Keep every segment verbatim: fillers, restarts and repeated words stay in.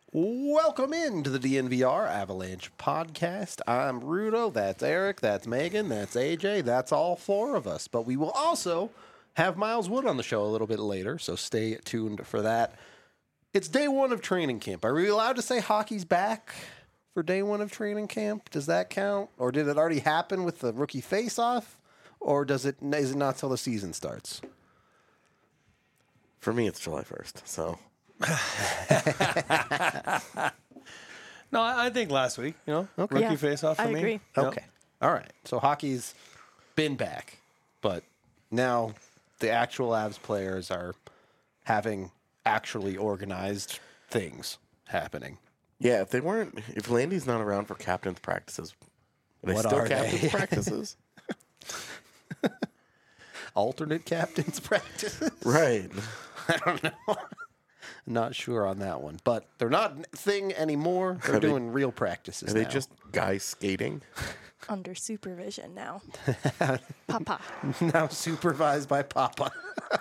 Welcome into the D N V R Avalanche podcast. I'm Rudo, that's Eric, that's Megan, that's A J, that's all four of us. But we will also have Miles Wood on the show a little bit later, so stay tuned for that. It's day one of training camp. Are we allowed to say hockey's back for day one of training camp? Does that count? Or did it already happen with the rookie face-off? Or does it, is it not till the season starts? For me, it's July first, so... No, I, I think last week, you know, Okay. rookie Yeah, face-off for I me. agree. Yep. Okay. All right. So hockey's been back, but now the actual Avs players are having actually organized things happening. Yeah, if they weren't, if Landy's not around for captain's practices, are they What still are they? captain's practices? Alternate captains practices? Right. I don't know. Not sure on that one, but they're not a thing anymore. They're Are they- doing real practices Are they now. just guys skating? Under supervision now. Papa. now supervised by Papa.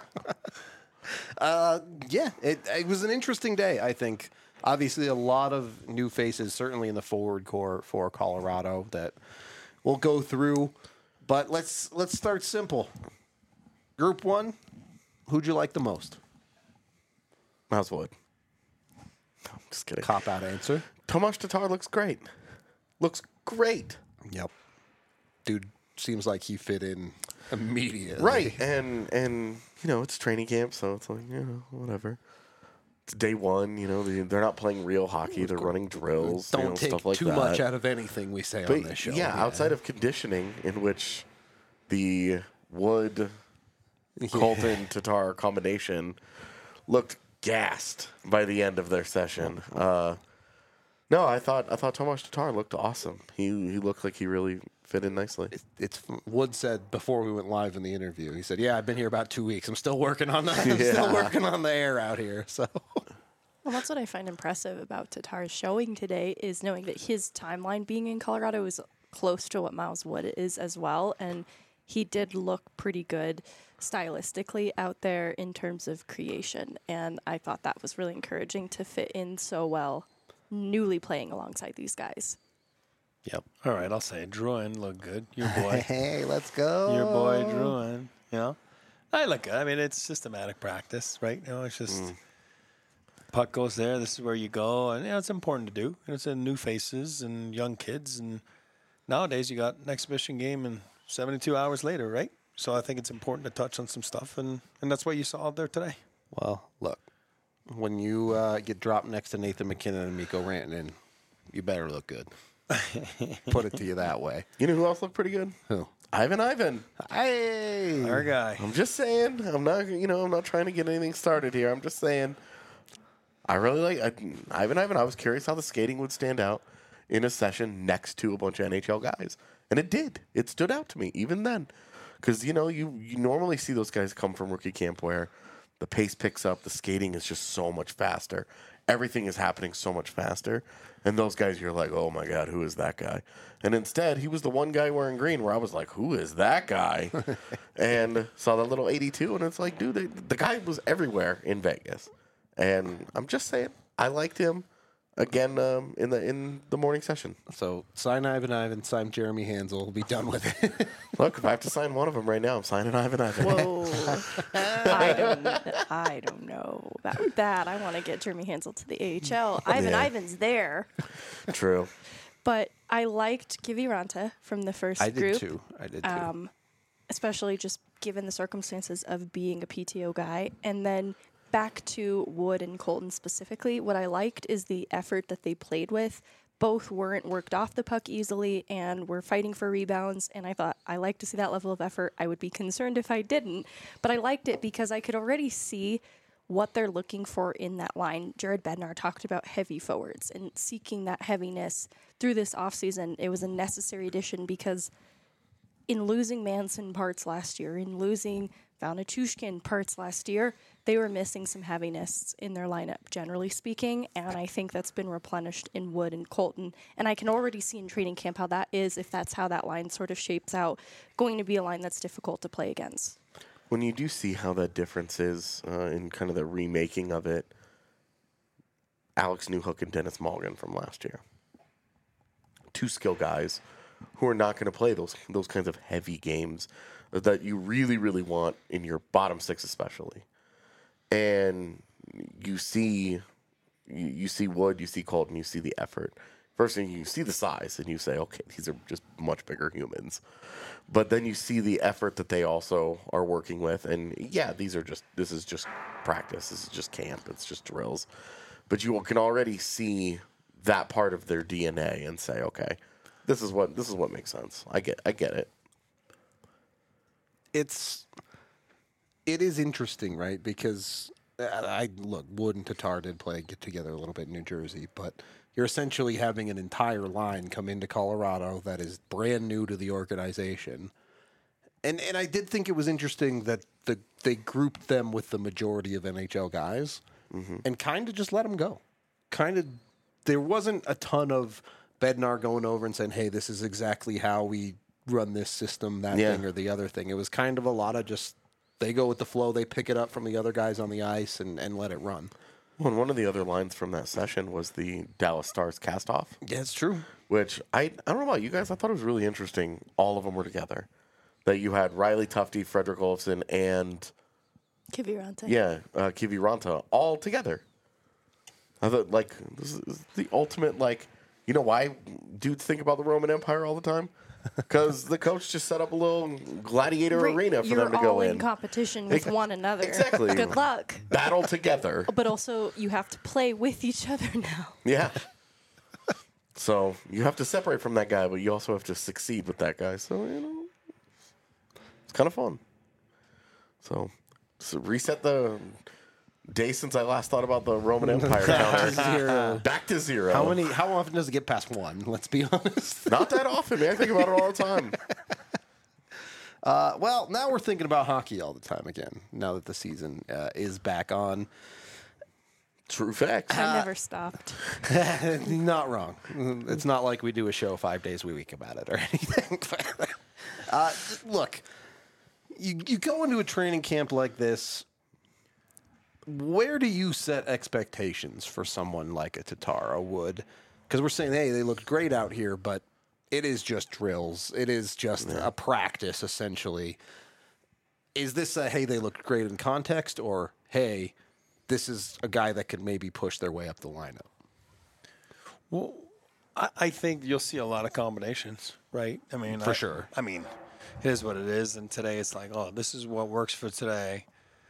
uh, yeah, it, it was an interesting day, I think. Obviously, a lot of new faces, certainly in the forward core for Colorado, that we'll go through. But let's let's start simple. Group one, who'd you like the most? Miles Wood. No, I'm just kidding. Cop out answer. Tomas Tatar looks great. Looks great. Yep. Dude seems like he fit in immediately. Right. And, and you know, it's training camp, so it's like, you know, whatever. It's day one, you know, they, they're not playing real hockey. They're running drills, Don't you know, take stuff like too that. much out of anything we say But on this show. yeah, outside of conditioning, in which the Wood Colton Tatar combination looked gassed by the end of their session. Uh, no, I thought I thought Tomas Tatar looked awesome. He he looked like he really fit in nicely. It's Wood said before we went live in the interview. He said, "Yeah, I've been here about two weeks. I'm still working on that. I'm still Yeah. working on the air out here." So Well, that's what I find impressive about Tatar's showing today is knowing that his timeline being in Colorado is close to what Miles Wood is as well. And he did look pretty good stylistically out there in terms of creation. And I thought that was really encouraging to fit in so well, newly playing alongside these guys. yep. All right, I'll say it. Druin looked good. Your boy. Hey, let's go. Your boy Druin. You know? I look good. I mean, it's systematic practice, right? You know, it's just puck goes there. This is where you go. And, you know, it's important to do. And it's in new faces and young kids. And nowadays, you got an exhibition game and seventy-two hours later, right? So I think it's important to touch on some stuff. And, and that's what you saw out there today. Well, look, when you uh, get dropped next to Nathan McKinnon and Mikko Rantanen, you better look good. Put it to you that way. You know who else looked pretty good? Who? Ivan Ivan. Hey. Our guy. I'm just saying. I'm not. You know. I'm not trying to get anything started here. I'm just saying. I really like I, Ivan Ivan. I was curious how the skating would stand out in a session next to a bunch of N H L guys, and it did. It stood out to me even then, because you know you you normally see those guys come from rookie camp where the pace picks up, the skating is just so much faster, everything is happening so much faster, and those guys you're like, oh my god, who is that guy? And instead, he was the one guy wearing green where I was like, who is that guy? And saw that little eighty-two, and it's like, dude, they, the guy was everywhere in Vegas. And I'm just saying, I liked him again um, in the in the morning session. So sign Ivan Ivan, sign Jeremy Hansel. We'll be done with it. Look, if I have to sign one of them right now, I'm signing Ivan Ivan. Whoa. I don't I don't know about that. I want to get Jeremy Hansel to the A H L. Ivan Yeah. Ivan's there. True. But I liked Kiviranta from the first I did group. too. I did too. Um, especially just given the circumstances of being a P T O guy. And then back to Wood and Colton specifically, what I liked is the effort that they played with. Both weren't worked off the puck easily and were fighting for rebounds. And I thought, I like to see that level of effort. I would be concerned if I didn't. But I liked it because I could already see what they're looking for in that line. Jared Bednar talked about heavy forwards and seeking that heaviness through this offseason. It was a necessary addition because in losing Manson parts last year, in losing Valnichushkin parts last year, they were missing some heaviness in their lineup, generally speaking, and I think that's been replenished in Wood and Colton. And I can already see in training camp how that is, if that's how that line sort of shapes out, going to be a line that's difficult to play against. When you do see how that difference is uh, in kind of the remaking of it, Alex Newhook and Dennis Mulligan from last year. Two skill guys who are not going to play those those kinds of heavy games that you really, really want in your bottom six especially. And you see you, you see Wood, you see Colton, you see the effort. First thing, you see the size, and you say, okay, these are just much bigger humans. But then you see the effort that they also are working with, and yeah, these are just this is just practice, this is just camp, it's just drills. But you can already see that part of their D N A and say, okay, this is what this is what makes sense. I get I get it. It's it is interesting, right? Because I, I look, Wood and Tatar did play get together a little bit in New Jersey, but you're essentially having an entire line come into Colorado that is brand new to the organization. And and I did think it was interesting that the they grouped them with the majority of N H L guys mm-hmm. and kind of just let them go. Kind of, there wasn't a ton of Bednar going over and saying, hey, this is exactly how we run this system, that Yeah. thing or the other thing. It was kind of a lot of just, they go with the flow, they pick it up from the other guys on the ice and, and let it run. Well, and one of the other lines from that session was the Dallas Stars cast-off. Yeah, it's true. Which, I, I don't know about you guys, I thought it was really interesting all of them were together. That you had Riley Tufte, Frederick Olofsson, and, Kiviranta. yeah, uh, Kivi Ranta all together. I thought, like, this is the ultimate, like, you know why dudes think about the Roman Empire all the time? Because the coach just set up a little gladiator Right, arena for you're them to go all in in. competition with Ex- one another. Exactly. Good luck. Battle together. But also, you have to play with each other now. Yeah. So you have to separate from that guy, but you also have to succeed with that guy. So, you know, it's kind of fun. So, so reset the day since I last thought about the Roman Empire counter. Zero. Back to zero. How many? How often does it get past one? Let's be honest. Not that often, man. I think about it all the time. Uh, well, now we're thinking about hockey all the time again. Now that the season uh, is back on, True facts. I never stopped. not wrong. It's not like we do a show five days a week about it or anything. uh, look, you you go into a training camp like this. Where do you set expectations for someone like a Tatar, a Wood? Because we're saying, hey, they looked great out here, but it is just drills. It is just a practice, essentially. Is this a, hey, they looked great in context, or, hey, this is a guy that could maybe push their way up the lineup? Well, I, I think you'll see a lot of combinations, right? I mean, For I- sure. I mean, it is what it is, and today it's like, oh, this is what works for today,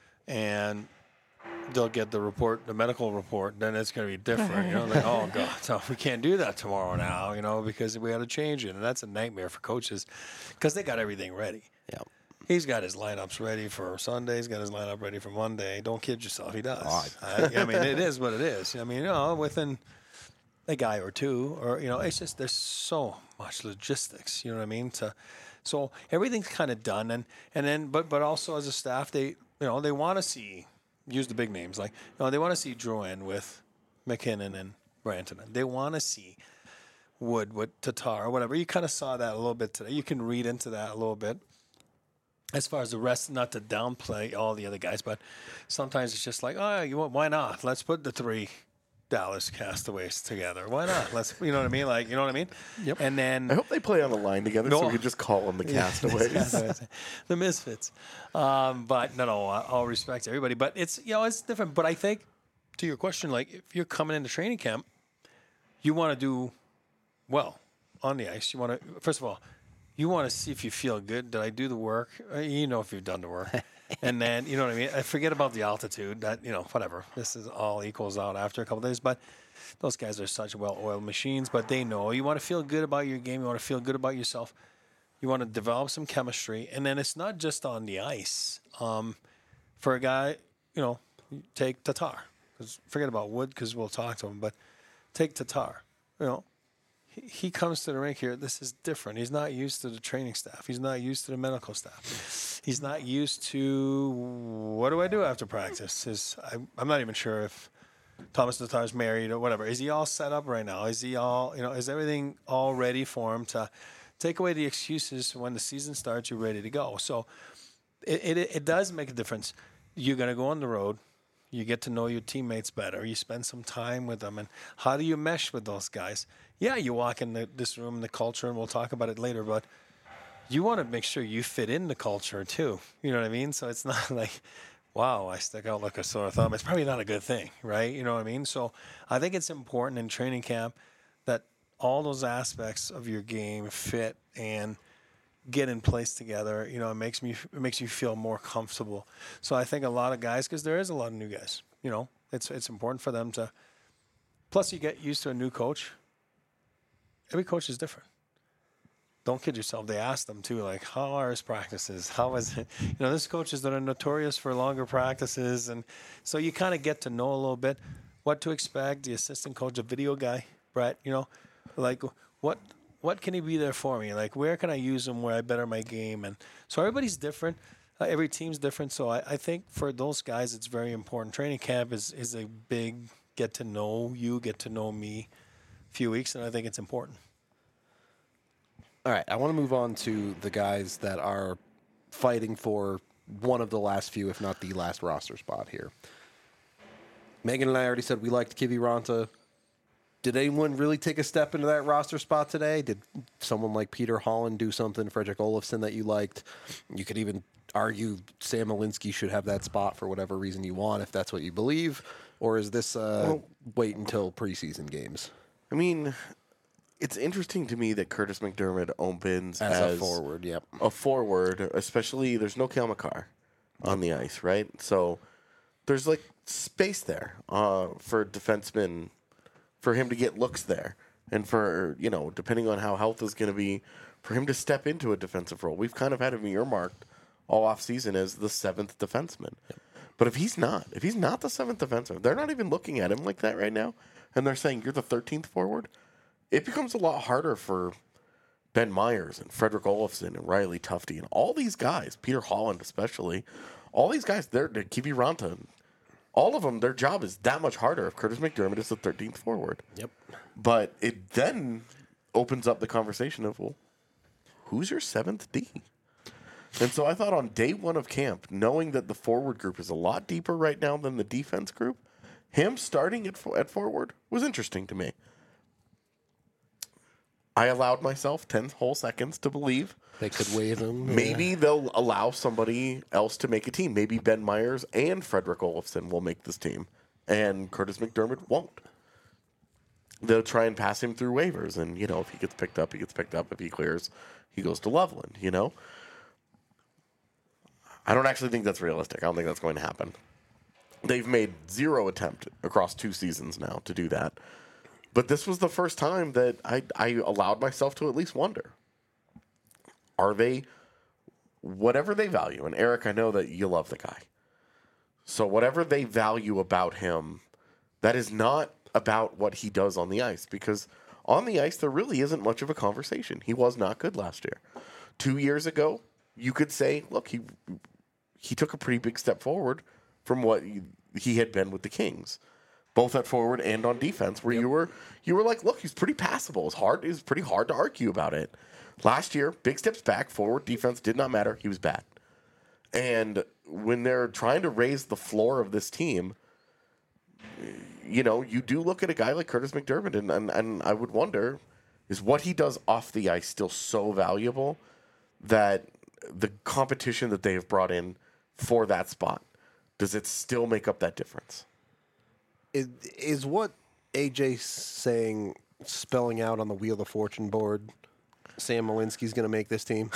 and they'll get the report, the medical report, then it's going to be different. You know, like, oh god, so we can't do that tomorrow now, you know, because we had to change it, and that's a nightmare for coaches because they got everything ready. Yeah. He's got his lineups ready for Sunday. He's got his lineup ready for Monday. Don't kid yourself. He does. Oh, I, I mean, it is what it is. I mean, you know, within a guy or two, or, you know, it's just there's so much logistics, you know what I mean? To, so everything's kind of done. And, and then, but, but also as a staff, they, you know, they want to see, use the big names, like, you know, they want to see Drouin with McKinnon and Brantanen. They want to see Wood with Tatar or whatever. You kind of saw that a little bit today. You can read into that a little bit. As far as the rest, not to downplay all the other guys, but sometimes it's just like, oh, you want, why not? Let's put the three Dallas Castaways together. Why not? Let's, you know what I mean? Like, you know what I mean? Yep. And then I hope they play on the line together so No. we can just call them the Castaways. the Misfits. Um, but no, no, all respect to everybody. But it's, you know, it's different. But I think to your question, like if you're coming into training camp, you want to do well on the ice. You want to, first of all, you want to see if you feel good. Did I do the work? Uh, You know if you've done the work. And then, you know what I mean? I forget about the altitude. That, you know, whatever. This is all equals out after a couple of days. But those guys are such well-oiled machines. But they know you want to feel good about your game. You want to feel good about yourself. You want to develop some chemistry. And then it's not just on the ice. Um, for a guy, you know, take Tatar. 'Cause forget about Wood because we'll talk to him. But take Tatar. You know, he comes to the rink here. This is different. He's not used to the training staff. He's not used to the medical staff. He's not used to what do I do after practice. Is I, I'm not even sure if Thomas Tatar's married or whatever. Is he all set up right now? Is he all, you know, is everything all ready for him to take away the excuses when the season starts? You're ready to go. So it it, it does make a difference. You're going to go on the road. You get to know your teammates better. You spend some time with them. And how do you mesh with those guys? Yeah, you walk in the, this room, the culture, and we'll talk about it later, but you want to make sure you fit in the culture too. You know what I mean? So it's not like, wow, I stick out like a sore thumb. It's probably not a good thing, right? You know what I mean? So I think it's important in training camp that all those aspects of your game fit and get in place together. You know, it makes me it makes you feel more comfortable. So I think a lot of guys, because there is a lot of new guys, you know, it's it's important for them to. Plus, you get used to a new coach. Every coach is different. Don't kid yourself. They ask them too, like, how are his practices? How is it? You know, there's coaches that are notorious for longer practices, and so you kind of get to know a little bit what to expect. The assistant coach, a video guy, Brett. You know, like what what can he be there for me? Like, where can I use him where I better my game? And so everybody's different. Uh, every team's different. So I, I think for those guys, it's very important. Training camp is is a big get to know you, get to know me, few weeks, and I think it's important. All right, I want to move on to the guys that are fighting for one of the last few, if not the last roster spot here. Megan and I already said we liked Kiviranta. Did anyone really take a step into that roster spot today? Did someone like Peter Holland do something, Frederick Olofsson, that you liked? You could even argue Sam Malinsky should have that spot for whatever reason you want, if that's what you believe. Or is this uh, Well- wait until preseason games? I mean, it's interesting to me that Curtis McDermott opens As, as, a forward, yep. a forward, especially there's no Cale Makar on the ice, right? So there's like space there uh, for defensemen, for him to get looks there, and for, you know, depending on how health is going to be, for him to step into a defensive role. We've kind of had him earmarked all off season as the seventh defenseman. Yep. But if he's not, if he's not the seventh defenseman, they're not even looking at him like that right now, and they're saying you're the thirteenth forward. It becomes a lot harder for Ben Myers and Frederick Olofsson and Riley Tufte and all these guys, Peter Holland especially, all these guys, they're, they're Kiviranta, all of them, their job is that much harder if Curtis McDermott is the thirteenth forward. Yep. But it then opens up the conversation of, well, who's your seventh D? And so I thought on day one of camp, knowing that the forward group is a lot deeper right now than the defense group, him starting at, at forward was interesting to me. I allowed myself ten whole seconds to believe They could waive him. maybe they'll allow somebody else to make a team. Maybe Ben Myers and Frederick Olofsson will make this team, and Curtis McDermott won't. They'll try and pass him through waivers, and, you know, if he gets picked up, he gets picked up. If he clears, he goes to Loveland, you know? I don't actually think that's realistic. I don't think that's going to happen. They've made zero attempt across two seasons now to do that. But this was the first time that I, I allowed myself to at least wonder. Are they, whatever they value, and Eric, I know that you love the guy. So whatever they value about him, that is not about what he does on the ice. Because on the ice, there really isn't much of a conversation. He was not good last year. Two years ago, you could say, look, he he took a pretty big step forward from what he, he had been with the Kings. Both at forward and on defense, where yep. you were you were like, look, he's pretty passable. It's hard. It's pretty hard to argue about it. Last year, big steps back, forward, defense did not matter. He was bad. And when they're trying to raise the floor of this team, you know, you do look at a guy like Curtis McDermott, and, and, and I would wonder, is what he does off the ice still so valuable that the competition that they have brought in for that spot, does it still make up that difference? Is, is what A J's saying, spelling out on the Wheel of Fortune board, Sam Malinsky's going to make this team?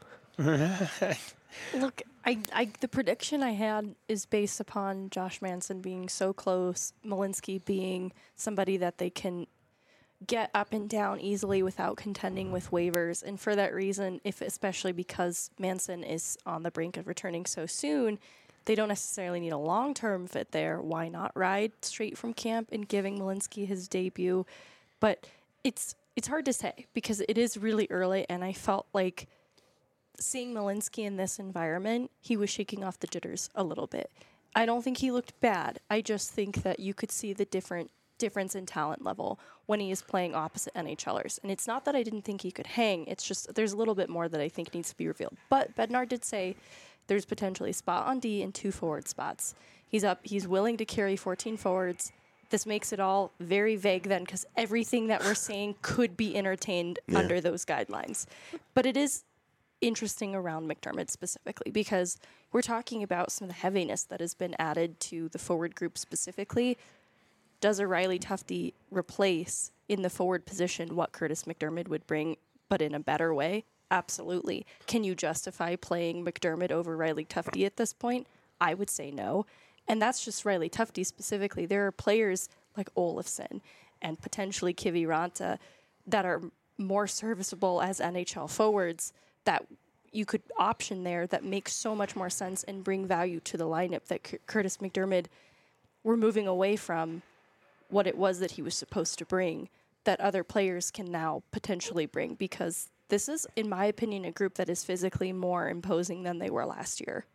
Look, I, I, the prediction I had is based upon Josh Manson being so close, Malinsky being somebody that they can get up and down easily without contending with waivers. And for that reason, if especially because Manson is on the brink of returning so soon, they don't necessarily need a long-term fit there. Why not ride straight from camp and giving Malinsky his debut? But it's it's hard to say because it is really early, and I felt like seeing Malinsky in this environment, he was shaking off the jitters a little bit. I don't think he looked bad. I just think that you could see the different difference in talent level when he is playing opposite NHLers. And it's not that I didn't think he could hang. It's just there's a little bit more that I think needs to be revealed. But Bednar did say there's potentially a spot on D and two forward spots. He's up. He's willing to carry fourteen forwards. This makes it all very vague then, because everything that we're saying could be entertained Yeah. under those guidelines. But it is interesting around McDermott specifically, because we're talking about some of the heaviness that has been added to the forward group specifically. Does a Riley Tufte replace in the forward position what Curtis McDermott would bring, but in a better way? Absolutely. Can you justify playing McDermott over Riley Tufte at this point? I would say no. And that's just Riley Tufte specifically. There are players like Olofsson and potentially Kiviranta that are more serviceable as N H L forwards that you could option there that makes so much more sense and bring value to the lineup that C- Curtis McDermott, we're moving away from what it was that he was supposed to bring that other players can now potentially bring, because this is, in my opinion, a group that is physically more imposing than they were last year.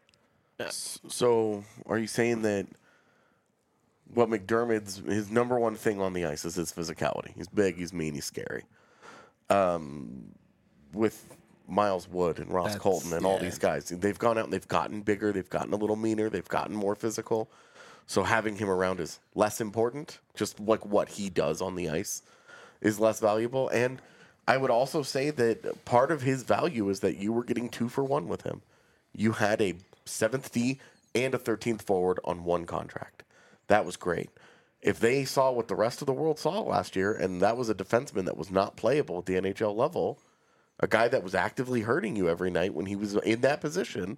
So, are you saying that what McDermott's his number one thing on the ice is his physicality? He's big, he's mean, he's scary. Um, with Miles Wood and Ross That's- Colton and all yeah. these guys, they've gone out and they've gotten bigger, they've gotten a little meaner, they've gotten more physical. So having him around is less important. Just like what he does on the ice is less valuable. And I would also say that part of his value is that you were getting two for one with him. You had a seventh D and a thirteenth forward on one contract. That was great. If they saw what the rest of the world saw last year, and that was a defenseman that was not playable at the N H L level, a guy that was actively hurting you every night when he was in that position,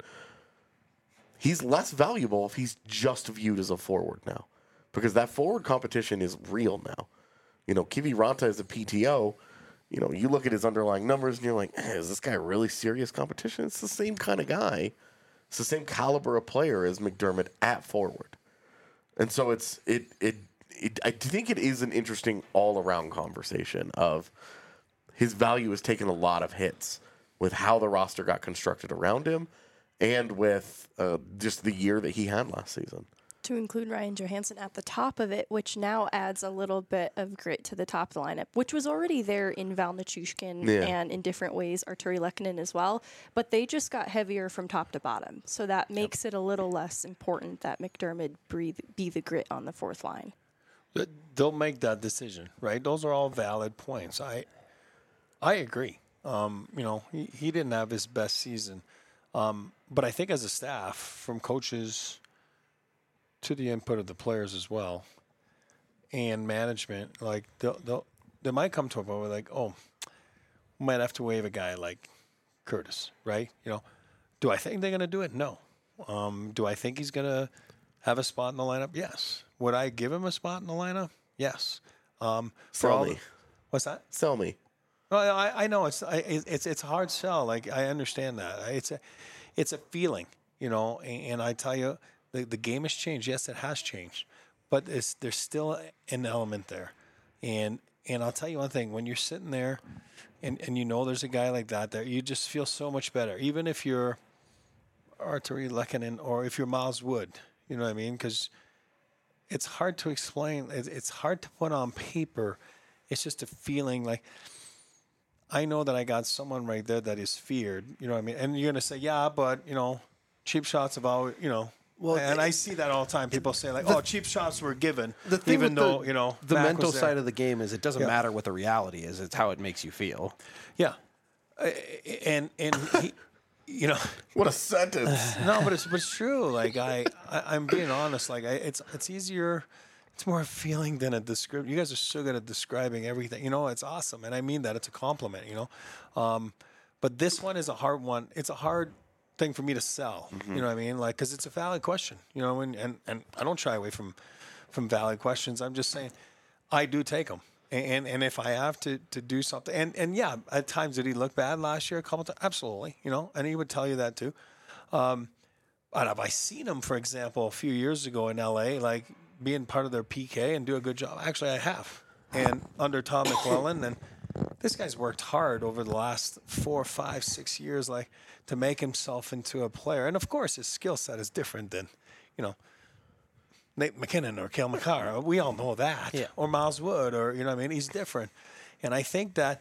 he's less valuable if he's just viewed as a forward now, because that forward competition is real now. You know, Kiviranta is a P T O. You know, you look at his underlying numbers and you're like, eh, is this guy really serious competition? It's the same kind of guy. It's the same caliber of player as McDermott at forward. And so it's it it, it I think it is an interesting all around conversation of his value has taken a lot of hits with how the roster got constructed around him and with uh, just the year that he had last season. To include Ryan Johansson at the top of it, which now adds a little bit of grit to the top of the lineup, which was already there in Val Nichushkin Yeah. and in different ways Arturi Lehkonen as well, but they just got heavier from top to bottom. So that makes it a little less important that McDermott breathe, be the grit on the fourth line. Th- They'll make that decision, right? Those are all valid points. I I agree. Um, you know, he, he didn't have his best season. Um, but I think as a staff, from coaches to the input of the players as well, and management, like they'll, they'll, they might come to a point where like, oh, we might have to waive a guy like Curtis, right? You know, do I think they're going to do it? No. Um, do I think he's going to have a spot in the lineup? Yes. Would I give him a spot in the lineup? Yes. Um, for Sell all me. the- what's that? Sell me. Well, I, I know it's I, it's it's a hard sell. Like I understand that. It's a it's a feeling, you know. And, and I tell you, the the game has changed. Yes, it has changed, but it's, there's still an element there. And and I'll tell you one thing: when you're sitting there, and, and you know there's a guy like that there, you just feel so much better. Even if you're Arturi Lehkonen or if you're Miles Wood, you know what I mean? Because it's hard to explain. It's, it's hard to put on paper. It's just a feeling like. I know that I got someone right there that is feared, you know what I mean? And you're going to say, yeah, but, you know, cheap shots have always, you know. Well, and the- I see that all the time. People say, like, oh, cheap shots were given, The thing even with though, the, you know, the Mac mental was there. side of the game is it doesn't Yeah. matter what the reality is; it's how it makes you feel. Yeah. Uh, And, and he, you know. What a sentence. No, but it's, but it's true. Like, I, I, I'm being honest. Like, I, it's it's easier. It's more a feeling than a description. You guys are so good at describing everything. You know, it's awesome. And I mean that. It's a compliment, you know. Um, but this one is a hard one. It's a hard thing for me to sell. You know what I mean? Like, because it's a valid question, you know, and, and, and I don't shy away from, from valid questions. I'm just saying I do take them. And, and if I have to, to do something, and, and yeah, at times did he look bad last year? A couple times? Absolutely, you know, and he would tell you that too. Um, but have I seen him, for example, a few years ago in L A, like being part of their P K and do a good job? Actually, I have. And under Tom McClellan, and this guy's worked hard over the last four, five, six years, like to make himself into a player. And of course, his skill set is different than, you know, Nate McKinnon or Cale Makar. We all know that. Yeah. Or Miles Wood, or, you know what I mean? He's different. And I think that,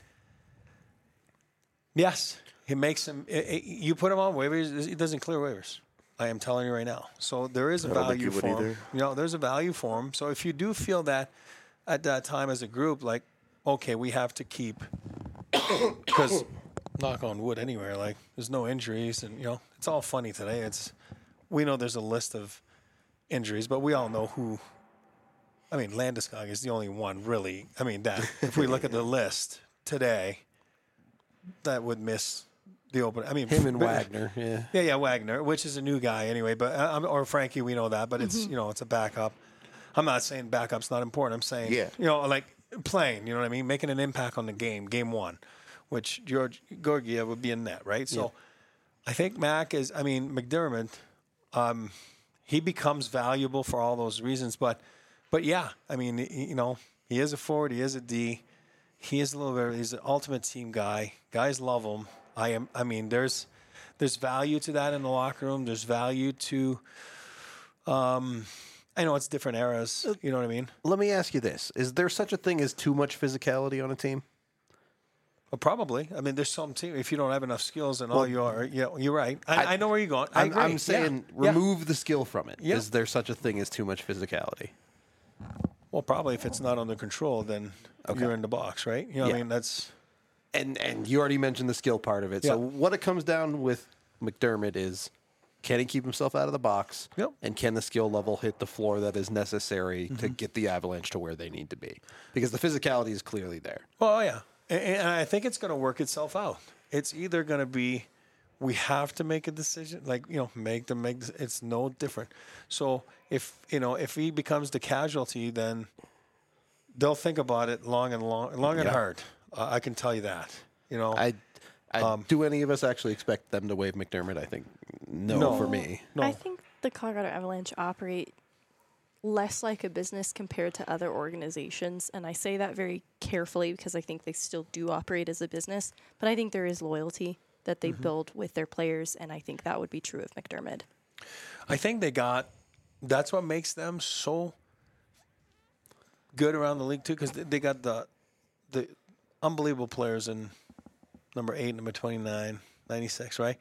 yes, it makes him, it, it, you put him on waivers, he doesn't clear waivers. I am telling you right now. So there is a I don't think value you would for him. either. You know, there's a value for him. So if you do feel that at that time as a group, like, okay, we have to keep, because knock on wood anywhere, like there's no injuries, and you know it's all funny today. It's we know there's a list of injuries, but we all know who. I mean, Landeskog is the only one really. I mean, that if we look at the list today, that would miss the open. I mean, Him and but- Wagner, yeah. Yeah, yeah, Wagner, which is a new guy anyway, but uh, um, or Frankie, we know that, but it's you know it's a backup. I'm not saying backup's not important. I'm saying Yeah. you know like playing. You know what I mean? Making an impact on the game, game one, which George Gorgiev would be in that, right? So I think Mac is. I mean McDermott, um, he becomes valuable for all those reasons, but but yeah, I mean he- you know he is a forward, he is a D, he is a little bit. He's an ultimate team guy. Guys love him. I am. I mean, there's there's value to that in the locker room. There's value to. Um, I know it's different eras. You know what I mean? Let me ask you this. Is there such a thing as too much physicality on a team? Well, probably. I mean, there's some team. If you don't have enough skills and all you are, yeah, you're right. I, I, I- know where you're going. I I'm, agree. I'm saying Yeah. Yeah. remove the skill from it. Is Yeah. there such a thing as too much physicality? Well, probably if it's not under control, then you're in the box, right? You know what Yeah. I mean? That's And and you already mentioned the skill part of it. So Yeah. what it comes down with McDermott is, can he keep himself out of the box? Yep. And can the skill level hit the floor that is necessary to Mm-hmm. get the Avalanche to where they need to be? Because the physicality is clearly there. well, yeah, and, and I think it's going to work itself out. It's either going to be we have to make a decision, like you know, make them make. this- It's no different. So if you know if he becomes the casualty, then they'll think about it long and long, long and Yeah. hard. Uh, I can tell you that. You know, I, I Um, do any of us actually expect them to waive McDermott? I think no, No. for me. no, I think the Colorado Avalanche operate less like a business compared to other organizations. And I say that very carefully because I think they still do operate as a business. But I think there is loyalty that they build with their players. And I think that would be true of McDermott. I think they got. That's what makes them so good around the league too, because they, they got the the unbelievable players in number eight, number twenty-nine, ninety-six, right?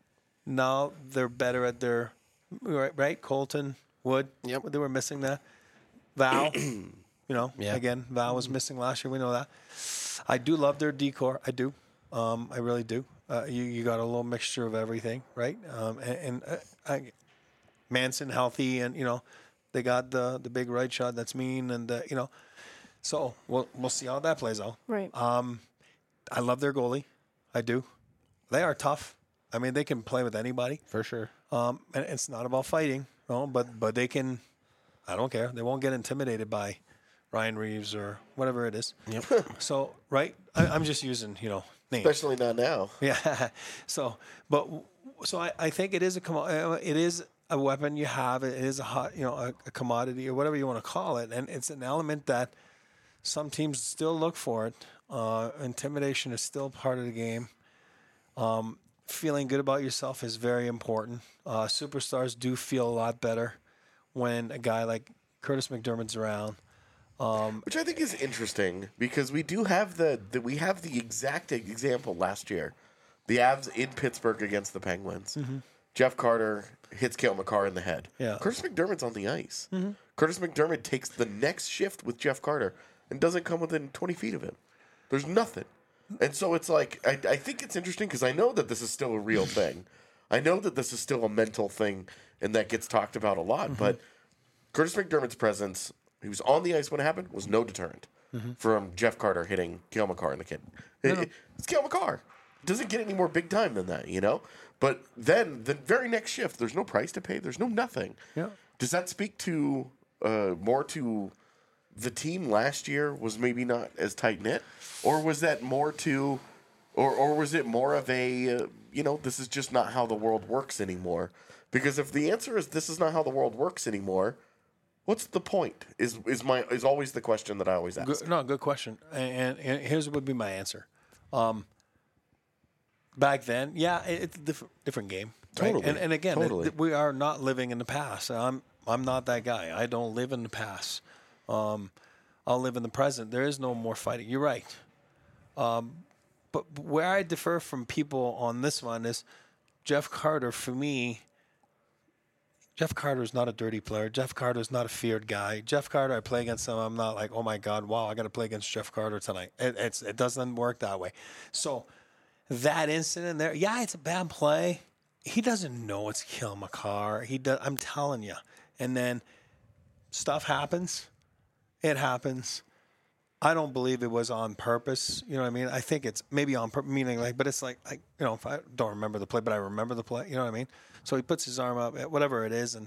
Now they're better at their right, right? Colton, Wood. Yep. They were missing that. Val, you know, Yeah. again, Val was missing last year. We know that. I do love their decor. I do. Um, I really do. Uh, you you got a little mixture of everything, right? Um, and and uh, I, Manson healthy, and you know, they got the the big right shot that's mean, and uh, you know, so we'll we'll see how that plays out. Right. Um, I love their goalie. I do. They are tough. I mean, they can play with anybody. For sure. Um, and it's not about fighting, no, but but they can. I don't care. They won't get intimidated by Ryan Reeves or whatever it is. Yep. So right, I, I'm just using you know names. Especially not now. Yeah. So, but so I, I think it is a commo- uh, it is a weapon you have. It is a hot you know a, a commodity or whatever you want to call it, and it's an element that some teams still look for it. Uh, intimidation is still part of the game. Um, feeling good about yourself is very important. Uh, superstars do feel a lot better when a guy like Curtis McDermott's around. Which I think is interesting because we do have the, the we have the exact example last year. The Avs in Pittsburgh against the Penguins. Jeff Carter hits Cale Makar in the head. Yeah. Curtis McDermott's on the ice. Curtis McDermott takes the next shift with Jeff Carter and doesn't come within twenty feet of him. There's nothing. And so it's like, I, I think it's interesting because I know that this is still a real thing. I know that this is still a mental thing and that gets talked about a lot. But Curtis McDermott's presence, he was on the ice when it happened, was no deterrent from Jeff Carter hitting Cale Makar in the kid. It- it- it's Cale Makar. It doesn't get any more big time than that, you know? But then the very next shift, there's no price to pay. There's no nothing. Yeah. Does that speak to uh, more to the team last year was maybe not as tight knit, or was that more to, or or was it more of a uh, you know this is just not how the world works anymore? Because if the answer is this is not how the world works anymore, what's the point? Is is my is always the question that I always ask. Good, no, good question. And, and, and here's what would be my answer. Um, back then, yeah, it, it's a different, different game. Right? Totally, And, and again, it- totally. we are not living in the past. I'm I'm not that guy. I don't live in the past. Um, I'll live in the present. There is no more fighting. You're right. Um, but where I differ from people on this one is Jeff Carter, for me, Jeff Carter is not a dirty player. Jeff Carter is not a feared guy. Jeff Carter, I play against him. I'm not like, oh my God, wow, I got to play against Jeff Carter tonight. It, it's it doesn't work that way. So that incident there, yeah, it's a bad play. He doesn't know it's Cale Makar. He does. I'm telling you. And then stuff happens. It happens. I don't believe it was on purpose. You know what I mean? I think it's maybe on purpose, meaning like, but it's like, like, you know, if I don't remember the play, but I remember the play. You know what I mean? So he puts his arm up, whatever it is, and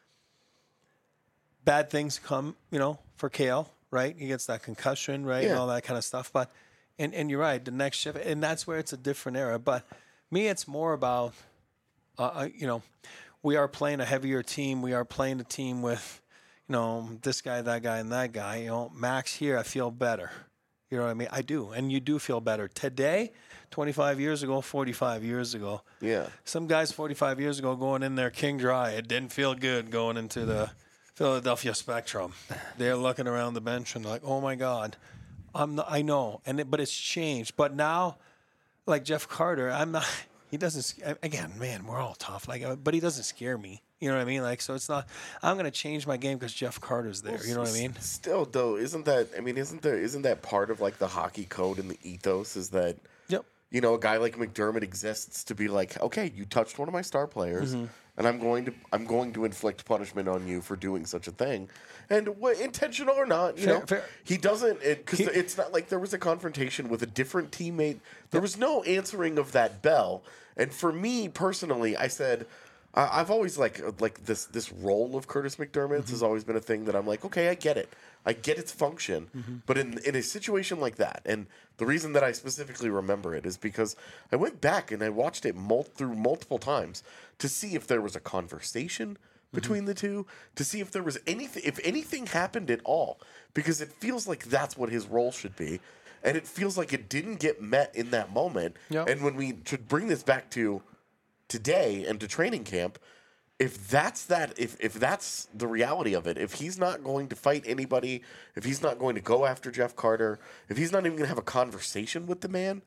bad things come, you know, for Cale, right? He gets that concussion, right, Yeah. and all that kind of stuff. But, and, and you're right, the next shift, and that's where it's a different era. But me, it's more about, uh, you know, we are playing a heavier team. We are playing a team with, you know, this guy, that guy, and that guy. You know, Max here, I feel better. You know what I mean? I do. And you do feel better. Today, twenty-five years ago, forty-five years ago. Yeah. Some guys forty-five years ago going in there king dry. It didn't feel good going into the Philadelphia Spectrum. They're looking around the bench and like, oh, my God. I'm not, I know. and it, But it's changed. But now, like Jeff Carter, I'm not – he doesn't – again, man, we're all tough. Like, but he doesn't scare me. You know what I mean? Like, so it's not, I'm going to change my game because Jeff Carter's there. You know what I mean? Still, though, isn't that, I mean, isn't there, isn't that part of like the hockey code and the ethos is that, Yep. you know, a guy like McDermott exists to be like, okay, you touched one of my star players, Mm-hmm. and I'm going to, I'm going to inflict punishment on you for doing such a thing, and wh- intentional or not, you Fair- know, fair. he doesn't, because He- it's not like there was a confrontation with a different teammate. There was no answering of that bell, and for me personally, I said. I- I've always like like this this role of Curtis McDermott's has always been a thing that I'm like, okay, I get it, I get its function, but in in a situation like that, and the reason that I specifically remember it is because I went back and I watched it mul- through multiple times to see if there was a conversation between the two, to see if there was anything, if anything happened at all, because it feels like that's what his role should be, and it feels like it didn't get met in that moment, Yeah. and when we should bring this back to today and to training camp, if that's that if if that's the reality of it, if he's not going to fight anybody, if he's not going to go after Jeff Carter, if he's not even going to have a conversation with the man,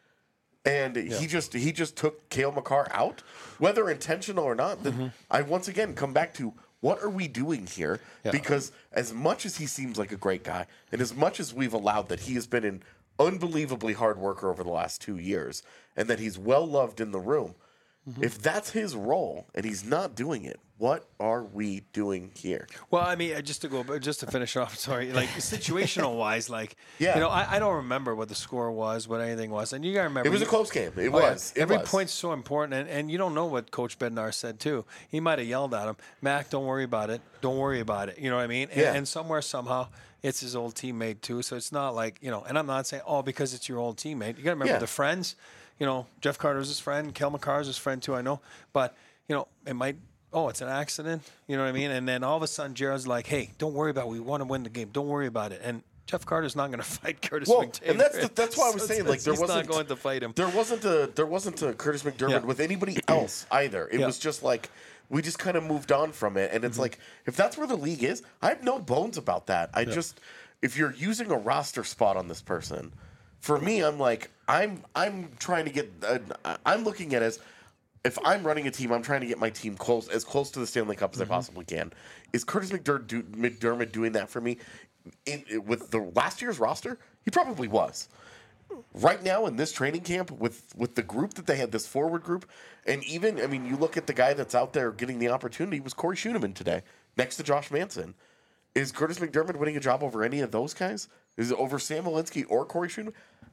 and he just he just took Cale Makar out, whether intentional or not, then I once again come back to what are we doing here? Yeah. Because as much as he seems like a great guy, and as much as we've allowed that he has been an unbelievably hard worker over the last two years, and that he's well loved in the room, if that's his role and he's not doing it, what are we doing here? Well, I mean, uh, just to go, but just to finish off, sorry, like situational wise, like, Yeah. you know, I, I don't remember what the score was, what anything was. And you got to remember. It was a you- close game. It Oh, yeah. was. It Every was. point's so important. And, and you don't know what Coach Bednar said, too. He might have yelled at him, Mac, don't worry about it. Don't worry about it. You know what I mean? And, Yeah. and somewhere, somehow, it's his old teammate, too. So it's not like, you know, and I'm not saying, oh, because it's your old teammate. You got to remember Yeah. the friends. You know, Jeff Carter's his friend. Cale Makar's his friend, too, I know. But, you know, it might. Oh, it's an accident. You know what I mean? And then all of a sudden, Jared's like, "Hey, don't worry about it. We want to win the game. Don't worry about it." And Jeff Carter's not going to fight Curtis Well, McDavid. and that's the, that's why I was So saying it's- like there he's wasn't not going to fight him. There wasn't a there wasn't a Curtis McDermott Yeah. with anybody else either. It Yeah. was just like we just kind of moved on from it, and it's like if that's where the league is, I have no bones about that. I just if you're using a roster spot on this person, for me, I'm like I'm I'm trying to get uh, I'm looking at it as if I'm running a team, I'm trying to get my team close as close to the Stanley Cup as I possibly can. Is Curtis McDermott, do, McDermott doing that for me? In, with the last year's roster, he probably was. Right now in this training camp with with the group that they had, this forward group, and even I mean, you look at the guy that's out there getting the opportunity was Corey Schooneman today, next to Josh Manson. Is Curtis McDermott winning a job over any of those guys? Is it over Sam Walensky or Corey Schooneman?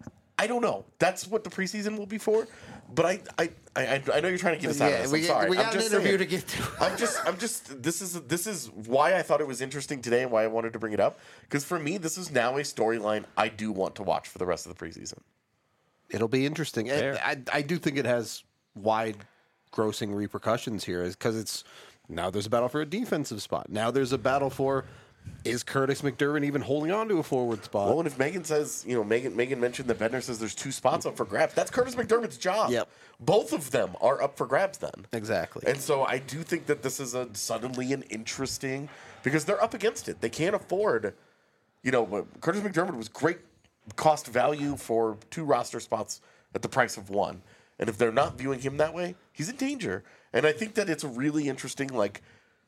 I don't know. That's what the preseason will be for. But I, I, I, I know you're trying to get us out of Yeah, this. we, I'm sorry. we I'm got an just interview saying. to get to. I'm just, I'm just. This is this is why I thought it was interesting today and why I wanted to bring it up. Because for me, this is now a storyline I do want to watch for the rest of the preseason. It'll be interesting. And Fair. I, I do think it has wide grossing repercussions here because it's now there's a battle for a defensive spot. Now there's a battle for is Curtis McDermott even holding on to a forward spot? Well, and if Megan says, you know, Megan Megan mentioned that Bednar says there's two spots up for grabs. That's Curtis McDermott's job. Yep. Both of them are up for grabs then. Exactly. And so I do think that this is a suddenly an interesting because they're up against it. They can't afford, you know, Curtis McDermott was great cost value for two roster spots at the price of one. And if they're not viewing him that way, he's in danger. And I think that it's a really interesting, like,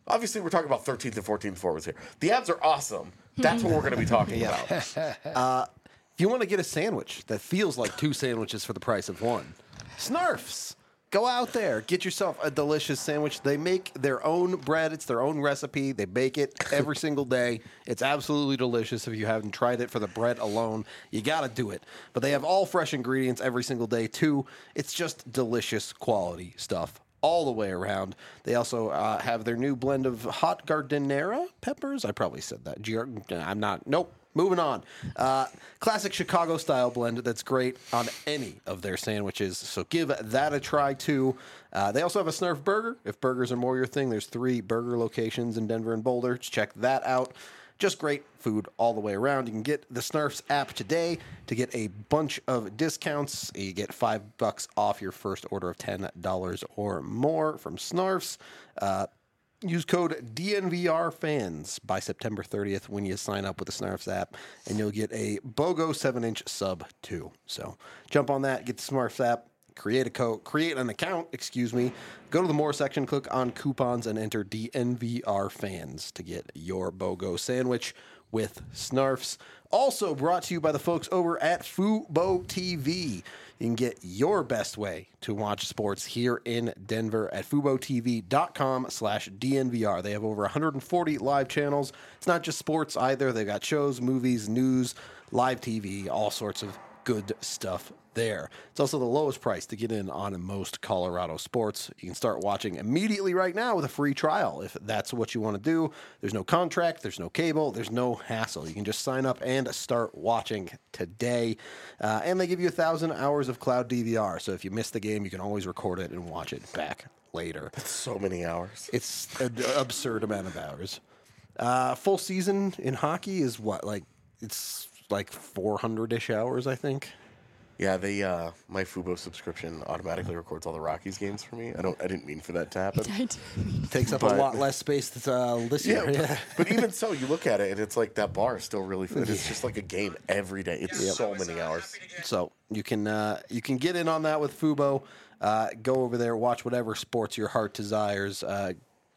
Obviously, we're talking about thirteenth and fourteenth forwards here. The abs are awesome. That's what we're going to be talking about. Uh, if you want to get a sandwich that feels like two sandwiches for the price of one, Snurfs. Go out there, get yourself a delicious sandwich. They make their own bread. It's their own recipe. They bake it every single day. It's absolutely delicious. If you haven't tried it for the bread alone, you got to do it. But they have all fresh ingredients every single day, too. It's just delicious quality stuff all the way around. They also uh, have their new blend of hot giardiniera peppers. I probably said that. Giar- I'm not. Nope. Moving on. Uh, classic Chicago style blend that's great on any of their sandwiches. So give that a try too. Uh, they also have a Snurf burger. If burgers are more your thing, there's three burger locations in Denver and Boulder. Just check that out. Just great food all the way around. You can get the Snurfs app today to get a bunch of discounts. You get five bucks off your first order of ten dollars or more from Snurfs. Uh, Use code D N V R fans by September thirtieth when you sign up with the Snurfs app, and you'll get a BOGO seven inch sub too. So jump on that, get the Snurfs app, create a code, create an account, excuse me. Go to the More section, click on coupons, and enter D N V R fans to get your BOGO sandwich with Snurfs. Also brought to you by the folks over at Fubo T V. You can get your best way to watch sports here in Denver at FuboTV.com slash DNVR. They have over one hundred forty live channels. It's not just sports either. They've got shows, movies, news, live T V, all sorts of good stuff there. It's also the lowest price to get in on most Colorado sports. You can start watching immediately right now with a free trial if that's what you want to do. There's no contract, there's no cable, there's no hassle. You can just sign up and start watching today. Uh, and they give you a thousand hours of cloud D V R. So if you miss the game, you can always record it and watch it back later. So many hours. It's an absurd amount of hours. Uh, full season in hockey is what, like, it's like four hundred-ish hours, I think. Yeah, they uh, my Fubo subscription automatically records all the Rockies games for me. I don't. I didn't mean for that to happen. Takes up But- a lot less space uh, this year. Yeah, Yeah. but even so, you look at it and it's like that bar is still really fun. It's just like a game every day. It's so many hours. So you can uh, you can get in on that with Fubo. Uh, go over there, watch whatever sports your heart desires. Uh,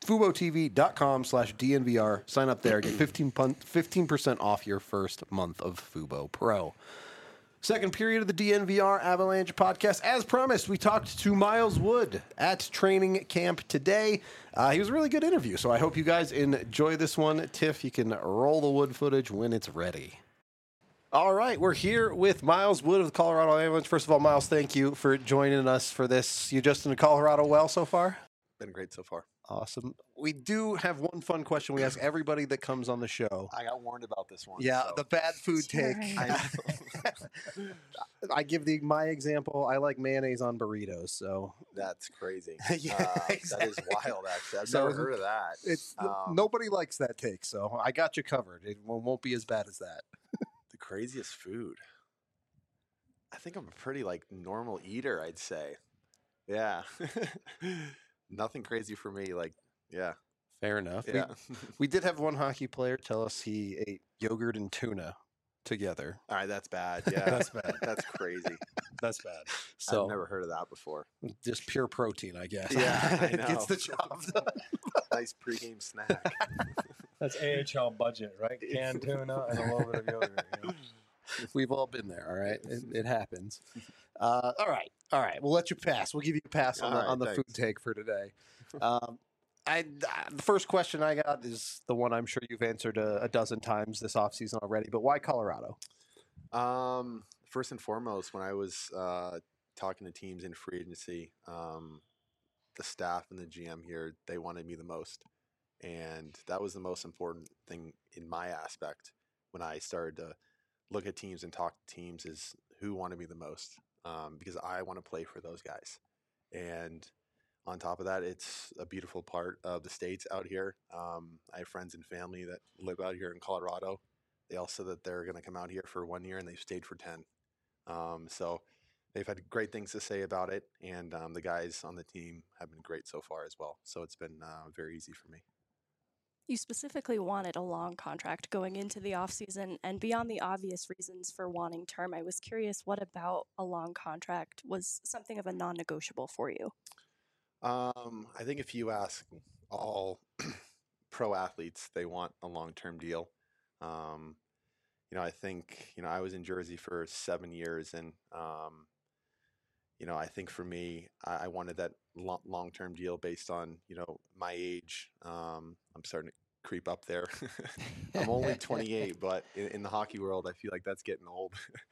FuboTV.com slash DNVR. Sign up there. Get fifteen percent off your first month of Fubo Pro. Second period of the D N V R Avalanche podcast. As promised, we talked to Miles Wood at training camp today. Uh, he was a really good interview, so I hope you guys enjoy this one. Tiff, you can roll the Wood footage when it's ready. All right, we're here with Miles Wood of the Colorado Avalanche. First of all, Miles, thank you for joining us for this. You just in Colorado well so far? Been great so far. Awesome. We do have one fun question we ask everybody that comes on the show. I got warned about this one. Yeah, so. the bad food take. I I give the my example. I like mayonnaise on burritos, so That's crazy. Yeah, uh, That is exactly. wild, actually. I've So never heard of that. it's Um, nobody likes that take. So I got you covered. It won't won't be as bad as that. The craziest food. I think I'm a pretty like normal eater, I'd say. Yeah. Nothing crazy for me. Like, yeah. Fair enough. Yeah. We, we did have one hockey player tell us he ate yogurt and tuna together. All right, that's bad. Yeah. That's bad. That's crazy. That's bad. So I've never heard of that before. just pure protein, I guess. Yeah, I it gets know. the job done. Nice pregame snack. That's A H L budget, right? Canned tuna and a little bit of yogurt. You know? We've all been there, all right? It, it happens. Uh, all right, all right. We'll let you pass. We'll give you a pass on All the, right, on the food thanks. take for today. Um, I, I- the first question I got is the one I'm sure you've answered a, a dozen times this offseason already, but why Colorado? Um, first and foremost, when I was uh, talking to teams in free agency, um, the staff and the G M here, they wanted me the most. And that was the most important thing in my aspect when I started to look at teams and talk to teams is who wanted me the most, um, because I want to play for those guys. And on top of that, it's a beautiful part of the States out here. Um, I have friends and family that live out here in Colorado. They all said that they're going to come out here for one year and they've stayed for ten. Um, so they've had great things to say about it. And um, the guys on the team have been great so far as well. So it's been uh, very easy for me. You specifically wanted a long contract going into the offseason, and beyond the obvious reasons for wanting term, I was curious what about a long contract was something of a non negotiable for you? Um, I think if you ask all pro athletes, they want a long-term deal. Um, you know, I think, you know, I was in Jersey for seven years and, um, you know, I think for me, I, I wanted that lo- long-term deal based on, you know, my age. Um, I'm starting to creep up there. I'm only twenty-eight, but in, in the hockey world, I feel like that's getting old.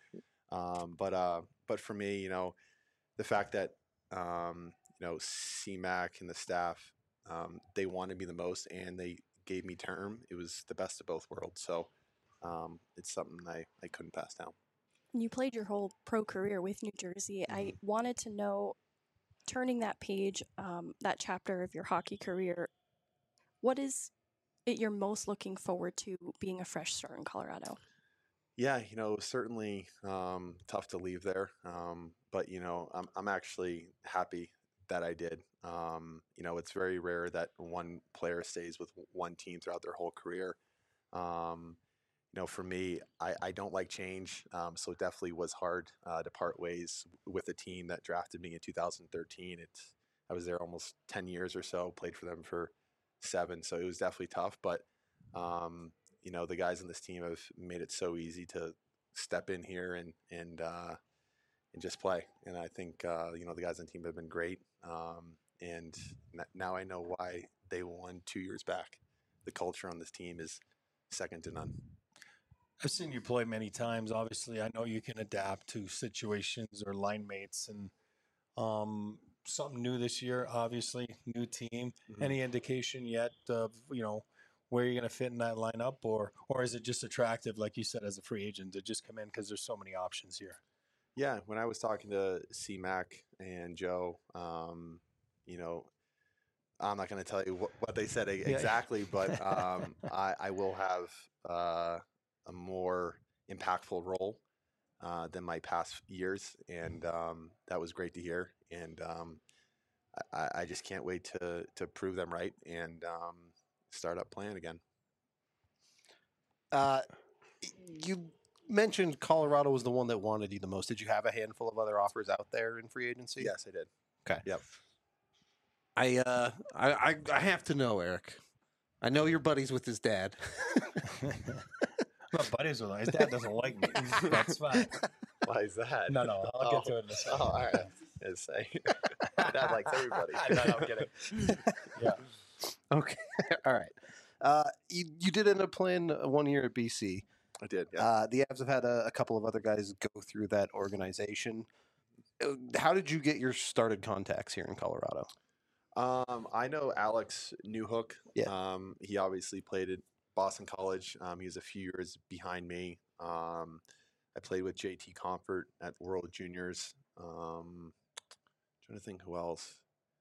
um, but, uh, but for me, you know, the fact that, um, you know, C MAC and the staff, um, they wanted me the most and they gave me term. It was the best of both worlds. So um, it's something I, I couldn't pass down. You played your whole pro career with New Jersey. Mm-hmm. I wanted to know, turning that page, um, that chapter of your hockey career, what is it you're most looking forward to being a fresh start in Colorado? Yeah, you know, it was certainly um, tough to leave there. Um, but, you know, I'm, I'm actually happy that I did. Um, you know, it's very rare that one player stays with one team throughout their whole career. Um, you know, for me, I, I don't like change. Um, so it definitely was hard uh, to part ways with a team that drafted me in two thousand thirteen. It's, I was there almost ten years or so, played for them for seven. So it was definitely tough. But, um, you know, the guys on this team have made it so easy to step in here and, and, uh, and just play. And I think, uh, you know, the guys on the team have been great. Um, and now I know why they won two years back. The culture on this team is second to none. I've seen you play many times. Obviously, I know you can adapt to situations or line mates, and um, something new this year. Obviously, new team. Mm-hmm. Any indication yet of you know where you're going to fit in that lineup, or or is it just attractive, like you said, as a free agent to just come in because there's so many options here? Yeah, when I was talking to C MAC and Joe, um, you know, I'm not going to tell you what, what they said exactly, yeah. but um, I, I will have uh, a more impactful role uh, than my past years, and um, that was great to hear. And um, I, I just can't wait to to prove them right and um, start up playing again. Uh, you mentioned Colorado was the one that wanted you the most. Did you have a handful of other offers out there in free agency? Yes, I did. Okay. Yep. I uh I, I I have to know, Eric. I know you're buddies with his dad. I'm not buddies with him. His dad doesn't like me. That's fine. Why is that? No, no. I'll oh. get to it in a second. Oh, all right. I'd say Dad likes everybody. no, no, I'm kidding. Yeah. Okay. All right. Uh, you you did end up playing one year at B C. I did. Yeah. Uh, the Avs have had a, a couple of other guys go through that organization. How did you get your started contacts here in Colorado? Um, I know Alex Newhook. Yeah. Um, he obviously played at Boston College. Um, he was a few years behind me. Um, I played with J T Comfort at World Juniors. Um, trying to think who else.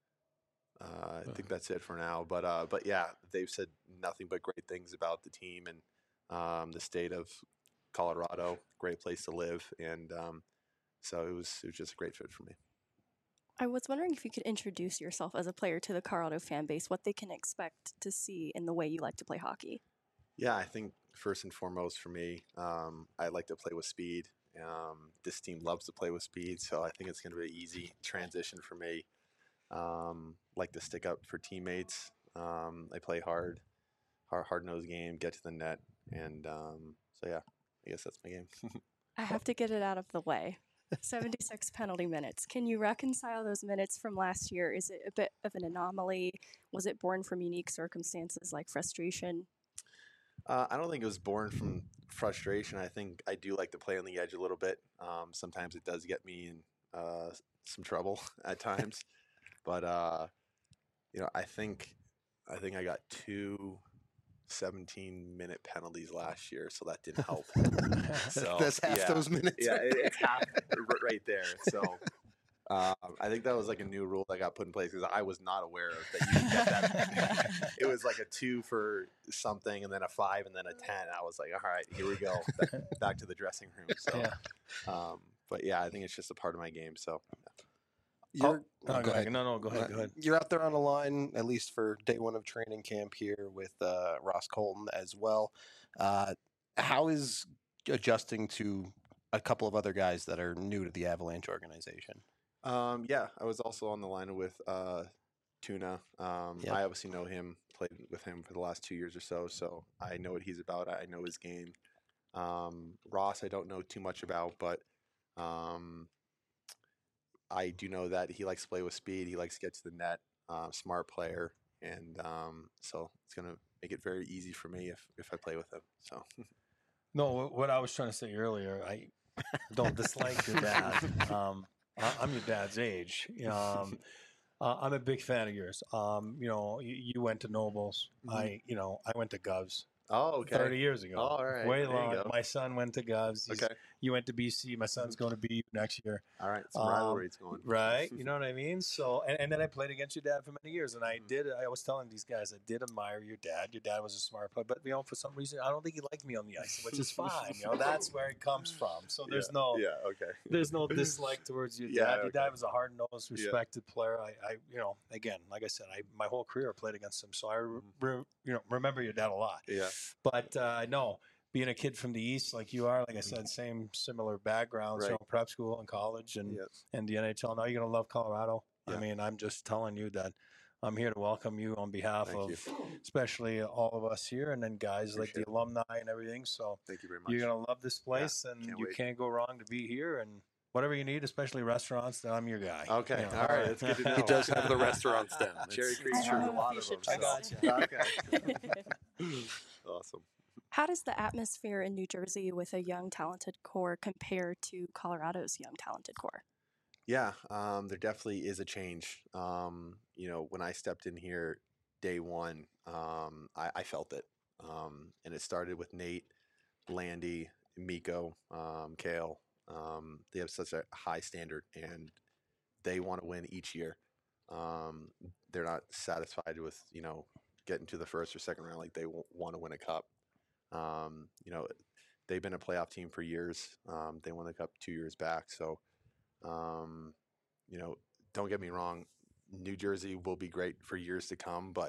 Uh, I think that's it for now. But uh, but yeah, they've said nothing but great things about the team and um, the state of Colorado. Great place to live, and um, so it was it was just a great fit for me. I was wondering if you could introduce yourself as a player to the Colorado fan base, what they can expect to see in the way you like to play hockey. Yeah, I think first and foremost for me, um, I like to play with speed. Um, this team loves to play with speed, so I think it's going to be an easy transition for me. Um, like to stick up for teammates. Um, I play hard, hard, hard-nosed game, get to the net, and um, so yeah, I guess that's my game. I have to get it out of the way. seventy-six penalty minutes. Can you reconcile those minutes from last year? Is it a bit of an anomaly? Was it born from unique circumstances like frustration? Uh, I don't think it was born from frustration. I think I do like to play on the edge a little bit. Um, sometimes it does get me in uh, some trouble at times, but uh, you know, I think I think I got two seventeen-minute penalties last year, so that didn't help. So that's half yeah, those minutes. Yeah, it, it's half right there. So um, I think that was like a new rule that got put in place because I was not aware of that. You could get that. It was like a two for something, and then a five, and then a ten. I was like, all right, here we go, back, back to the dressing room. So, yeah. Um, but yeah, I think it's just a part of my game. So. Yeah. You're, oh, no, go ahead. No, no, go ahead. Go ahead. You're out there on the line, at least for day one of training camp here with uh, Ross Colton as well. Uh, how is adjusting to a couple of other guys that are new to the Avalanche organization? Um, yeah, I was also on the line with uh, Tuna. Um, Yep. I obviously know him, played with him for the last two years or so, so I know what he's about. I know his game. Um, Ross, I don't know too much about, but um, I do know that he likes to play with speed. He likes to get to the net. Uh, smart player, and um, so it's gonna make it very easy for me if if I play with him. So No, wh- what I was trying to say earlier, I don't dislike your dad. Um, I- I'm your dad's age. Um, uh, I'm a big fan of yours. Um, you know, you, you went to Nobles. Mhm. I, you know, I went to Govs. oh, okay. thirty years ago. All right, Way there you long. go. My son went to Govs. He's, Okay. You went to B C. My son's going to B U next year. All right. Some Um, rivalries going. Right. You know what I mean? So, and, and then I played against your dad for many years. And I Mhm. did, I was telling these guys, I did admire your dad. Your dad was a smart player. But, you know, for some reason, I don't think he liked me on the ice, which is fine. You know, that's where it comes from. So there's yeah. no. Yeah. Okay. There's no dislike towards your Yeah, dad. Your okay. dad was a hard-nosed, Yeah. respected player. I, I, you know, again, like I said, I my whole career I played against him, so I, re, Mm-hmm. re- you know, remember your dad a lot. Yeah. But uh, no, being a kid from the East like you are, like I said, same similar backgrounds, you Right. know, prep school and college and Yes. and the N H L. Now you're gonna love Colorado. I Yeah. mean, I'm just telling you that I'm here to welcome you on behalf Thank of, especially all of us here, and then guys like the Appreciate it. alumni and everything. So Thank you very much. you're gonna love this place, and can't you wait. can't go wrong to be here. And whatever you need, especially restaurants, then I'm your guy. Okay. You know. All right. That's good to know. He does have the restaurants down. Cherry It's- Creek's I true. don't A know lot if of you them. should I got so- you. Okay. Awesome. How does the atmosphere in New Jersey with a young, talented core compare to Colorado's young, talented core? Yeah, um, there definitely is a change. Um, you know, when I stepped in here day one, um, I, I felt it. Um, and it started with Nate, Landy, Miko, um, Kale. Um, they have such a high standard and they want to win each year. Um, they're not satisfied with, you know, getting to the first or second round. Like they w- want to win a cup. Um, you know, they've been a playoff team for years. Um, they won the cup two years back. So, um, you know, don't get me wrong, New Jersey will be great for years to come, but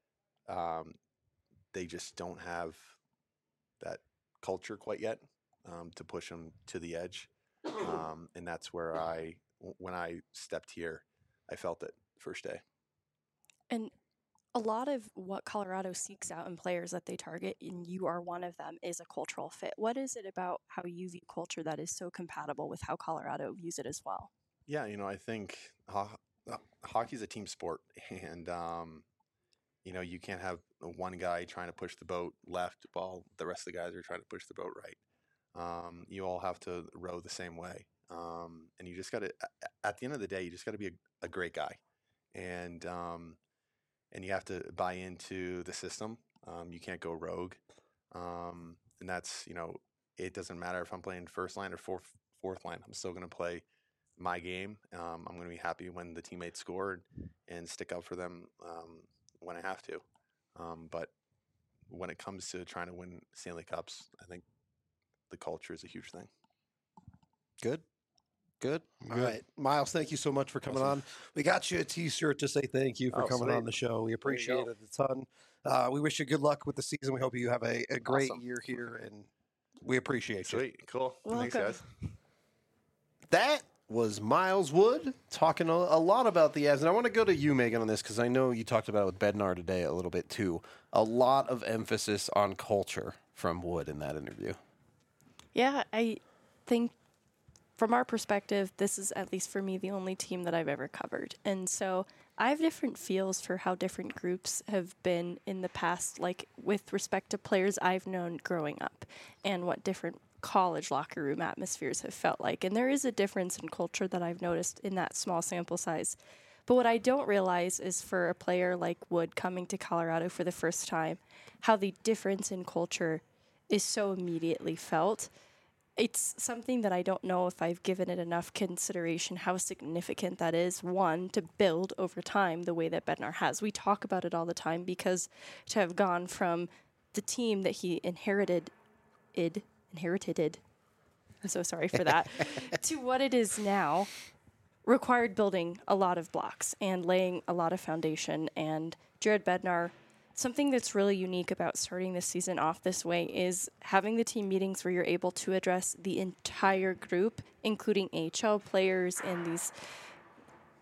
um, they just don't have that culture quite yet um, to push them to the edge. Um, and that's where I, w- when I stepped here, I felt it first day. And a lot of what Colorado seeks out in players that they target, and you are one of them, is a cultural fit. What is it about how you view culture that is so compatible with how Colorado views it as well? Yeah, you know, I think ho- uh, hockey is a team sport, and um, you know, you can't have one guy trying to push the boat left while the rest of the guys are trying to push the boat right. Um, you all have to row the same way, um, and you just got to. At the end of the day, you just got to be a, a great guy, and um, and you have to buy into the system. Um, you can't go rogue, um, and that's you know, it doesn't matter if I'm playing first line or fourth fourth line. I'm still going to play my game. Um, I'm going to be happy when the teammates score and stick up for them um, when I have to. Um, but when it comes to trying to win Stanley Cups, I think the culture is a huge thing. Good. Good. All Good. right. Miles, thank you so much for coming Awesome. on. We got you a t-shirt to say thank you for Oh, coming sweet. on the show. We appreciate go. it a ton. Uh, we wish you good luck with the season. We hope you have a, a great Awesome. year here, and we appreciate you. Sweet. Cool. Thanks, Welcome. guys. That was Miles Wood talking a, a lot about the ads. And I want to go to you, Megan, on this because I know you talked about it with Bednar today a little bit too. A lot of emphasis on culture from Wood in that interview. Yeah, I think from our perspective, this is, at least for me, the only team that I've ever covered. And so I have different feels for how different groups have been in the past, like with respect to players I've known growing up and what different college locker room atmospheres have felt like. And there is a difference in culture that I've noticed in that small sample size. But what I don't realize is for a player like Wood coming to Colorado for the first time, how the difference in culture is so immediately felt. It's something that I don't know if I've given it enough consideration how significant that is, one, to build over time the way that Bednar has. We talk about it all the time because to have gone from the team that he inherited, id, inherited, I'm so sorry for that, to what it is now, required building a lot of blocks and laying a lot of foundation. And Jared Bednar, something that's really unique about starting this season off this way is having the team meetings where you're able to address the entire group, including A H L players and these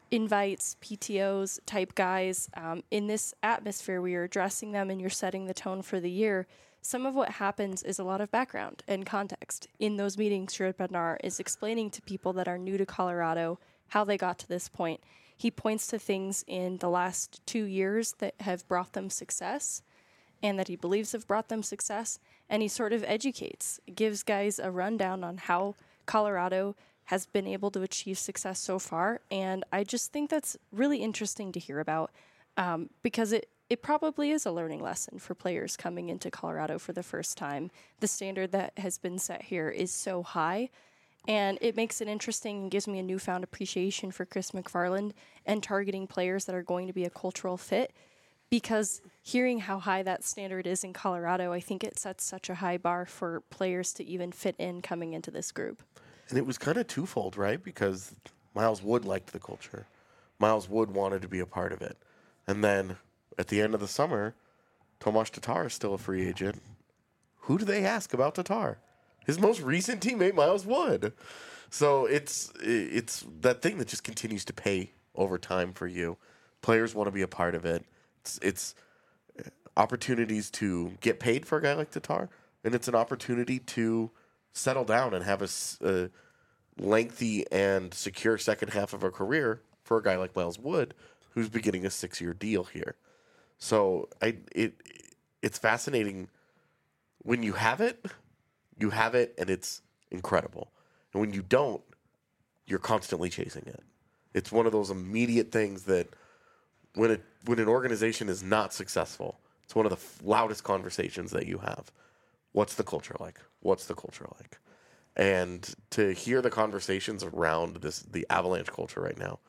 invites, P T Os type guys, um, in this atmosphere where you're addressing them and you're setting the tone for the year, some of what happens is a lot of background and context. In those meetings, Jared Bednar is explaining to people that are new to Colorado how they got to this point. He points to things in the last two years that have brought them success and that he believes have brought them success, and he sort of educates, gives guys a rundown on how Colorado has been able to achieve success so far, and I just think that's really interesting to hear about um, because it, it probably is a learning lesson for players coming into Colorado for the first time. The standard that has been set here is so high, and it makes it interesting and gives me a newfound appreciation for Chris McFarland and targeting players that are going to be a cultural fit, because hearing how high that standard is in Colorado, I think it sets such a high bar for players to even fit in coming into this group. And it was kind of twofold, right? Because Miles Wood liked the culture. Miles Wood wanted to be a part of it. And then at the end of the summer, Tomas Tatar is still a free agent. Who do they ask about Tatar? His most recent teammate, Miles Wood. So it's it's that thing that just continues to pay over time for you. Players want to be a part of it. It's, it's opportunities to get paid for a guy like Tatar, and it's an opportunity to settle down and have a, a lengthy and secure second half of a career for a guy like Miles Wood, who's beginning a six-year deal here. So I it it's fascinating when you have it, you have it, and it's incredible. And when you don't, you're constantly chasing it. It's one of those immediate things that when it when an organization is not successful, it's one of the f- loudest conversations that you have. What's the culture like? What's the culture like? And to hear the conversations around this the Avalanche culture right now,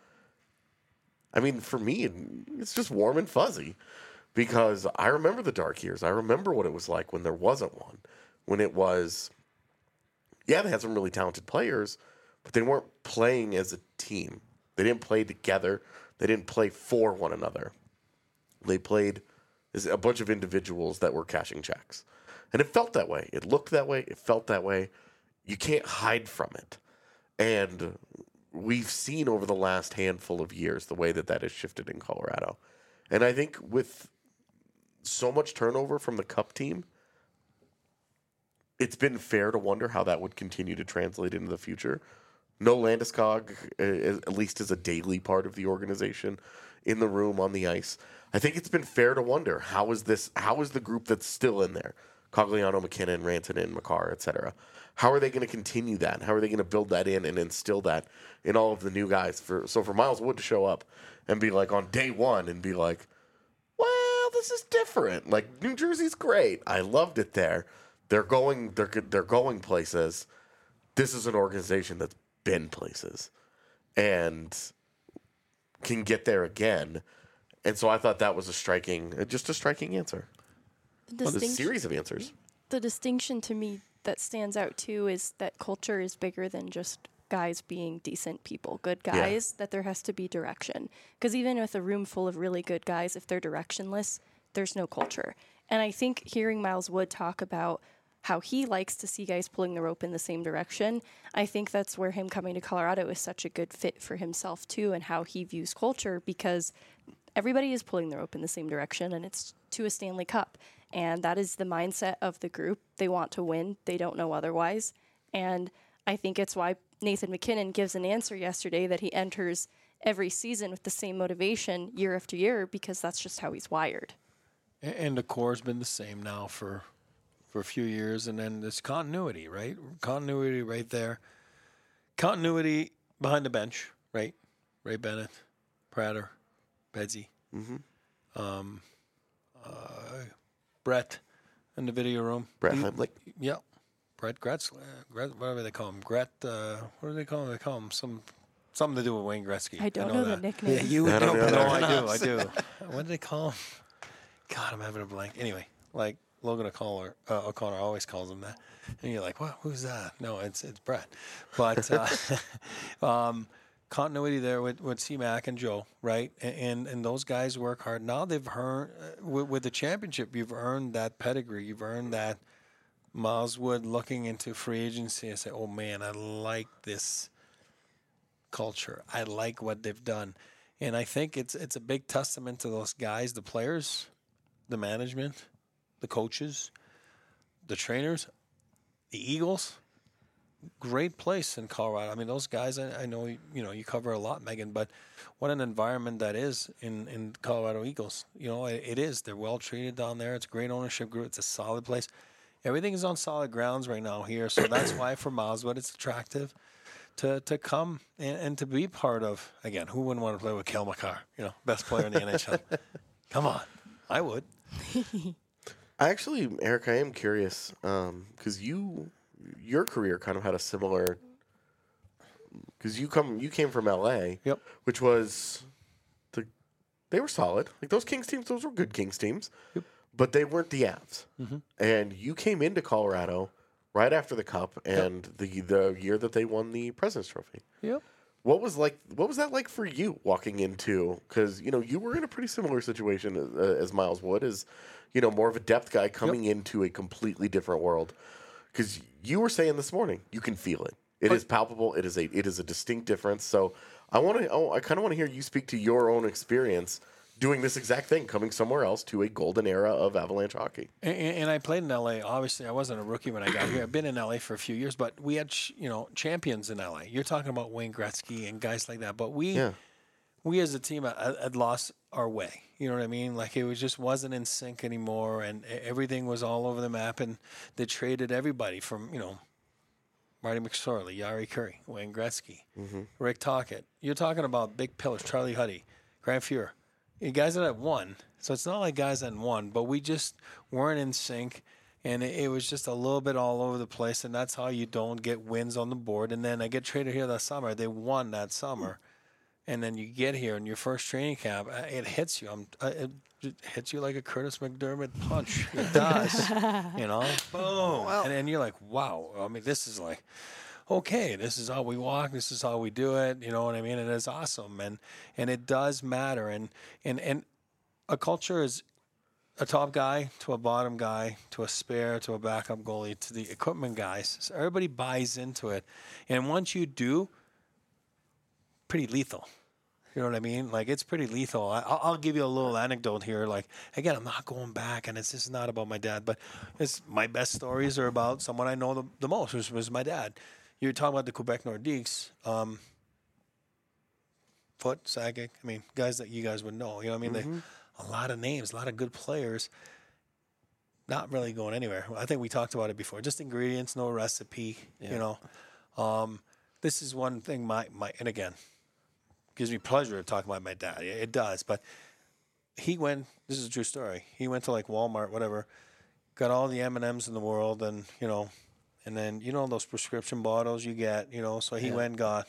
I mean, for me, it's just warm and fuzzy because I remember the dark years. I remember what it was like when there wasn't one. When it was, yeah, they had some really talented players, but they weren't playing as a team. They didn't play together. They didn't play for one another. They played as a bunch of individuals that were cashing checks. And it felt that way. It looked that way. It felt that way. You can't hide from it. And we've seen over the last handful of years the way that that has shifted in Colorado. And I think with so much turnover from the Cup team, it's been fair to wonder how that would continue to translate into the future. No Landeskog, uh, at least as a daily part of the organization, in the room, on the ice. I think it's been fair to wonder, how is this? How is the group that's still in there, Cogliano, McKinnon, Rantanen, Makar, et cetera, how are they going to continue that? How are they going to build that in and instill that in all of the new guys? For So for Miles Wood to show up and be like on day one and be like, well, this is different. Like, New Jersey's great. I loved it there. They're going, they're, they're going places. This is an organization that's been places and can get there again. And so I thought that was a striking, just a striking answer. The Well, a distinction- series of answers. The distinction to me that stands out too is that culture is bigger than just guys being decent people, good Yeah. guys, that there has to be direction. Because even with a room full of really good guys, if they're directionless, there's no culture. And I think hearing Miles Wood talk about how he likes to see guys pulling the rope in the same direction, I think that's where him coming to Colorado is such a good fit for himself too, and how he views culture, because everybody is pulling the rope in the same direction, and it's to a Stanley Cup. And that is the mindset of the group. They want to win. They don't know otherwise. And I think it's why Nathan McKinnon gives an answer yesterday that he enters every season with the same motivation year after year, because that's just how he's wired. And, and the core's been the same now for for a few years, and then there's continuity, right? Continuity right there. Continuity behind the bench, right? Ray Bennett, Prater, Bedsy. Mm-hmm. Um, uh, Brett in the video room. Brett He- Heimlich. Yeah. Brett Gretz, uh, Gret, whatever they call him. Gret, uh, what do they call him? They call him some something to do with Wayne Gretzky. I don't know, the that. nickname. Yeah, you I don't know, know no, that. I do, I do. What do they call him? God, I'm having a blank. Anyway, like Logan O'Connor, uh, O'Connor always calls him that, and you're like, what? Who's that? No, it's it's Brett. But uh, um, continuity there with with C-Mac and Joe, right? And, and and those guys work hard. Now they've earned uh, with, with the championship. You've earned that pedigree. You've earned that. Miles Wood looking into free agency and say, oh man, I like this culture. I like what they've done. And I think it's it's a big testament to those guys, the players, the management, the coaches, the trainers, the Eagles. Great place in Colorado. I mean, those guys, I, I know, you know, you cover a lot, Megan, but what an environment that is in, in Colorado Eagles. You know, it, it is. They're well treated down there. It's a great ownership group. It's a solid place. Everything is on solid grounds right now here. So that's why for Mileswood it's attractive to to come and, and to be part of. Again, who wouldn't want to play with Cale Makar? You know, best player in the N H L. Come on. I would. I actually, Eric, I am curious because um, you, your career kind of had a similar. Because you come, you came from L A, Yep. which was the, they were solid. Like those Kings teams, those were good Kings teams, Yep. but they weren't the Avs. Mm-hmm. And you came into Colorado right after the Cup and yep. the the year that they won the President's Trophy. Yep. What was like? What was that like for you walking into? Because you know you were in a pretty similar situation as, uh, as Miles Wood, as you know more of a depth guy coming yep. into a completely different world. Because you were saying this morning, you can feel it. It but, is palpable. It is a it is a distinct difference. So I want to. Oh, I kind of want to hear you speak to your own experience doing this exact thing, coming somewhere else to a golden era of Avalanche hockey. And, and I played in L A. Obviously, I wasn't a rookie when I got here. I've been in L A for a few years, but we had you know champions in L A. You're talking about Wayne Gretzky and guys like that. But we, yeah. we as a team had, had lost our way. You know what I mean? Like it was just wasn't in sync anymore, and everything was all over the map. And they traded everybody from you know. Marty McSorley, Yari Curry, Wayne Gretzky, mm-hmm. Rick Tocchet. You're talking about big pillars, Charlie Huddy, Grant Fuhr. You guys that have won. So it's not like guys that won, but we just weren't in sync, and it, it was just a little bit all over the place, and that's how you don't get wins on the board. And then I get traded here that summer. They won that summer. And then you get here in your first training camp, it hits you. I'm, it, it hits you like a Curtis McDermott punch. It does, you know, boom. Well, and then you're like, wow. I mean, this is like, okay, this is how we walk. This is how we do it. You know what I mean? And it's awesome, and and it does matter. And and and a culture is a top guy to a bottom guy to a spare to a backup goalie to the equipment guys. So everybody buys into it, and once you do, pretty lethal. You know what I mean? Like, it's pretty lethal. I, I'll give you a little anecdote here. Like, again, I'm not going back, and it's just not about my dad, but it's my best stories are about someone I know the, the most, which was my dad. You're talking about the Quebec Nordiques, um, Foot, Sakic, I mean, guys that you guys would know. You know what I mean? Mm-hmm. They, a lot of names, a lot of good players, not really going anywhere. I think we talked about it before. Just ingredients, no recipe, yeah. you know. Um, this is one thing my, my and again, gives me pleasure to talk about my dad. It does. But he went, this is a true story. He went to like Walmart, whatever, got all the M and M's in the world and, you know, and then, you know, those prescription bottles you get, you know, so he yeah. went and got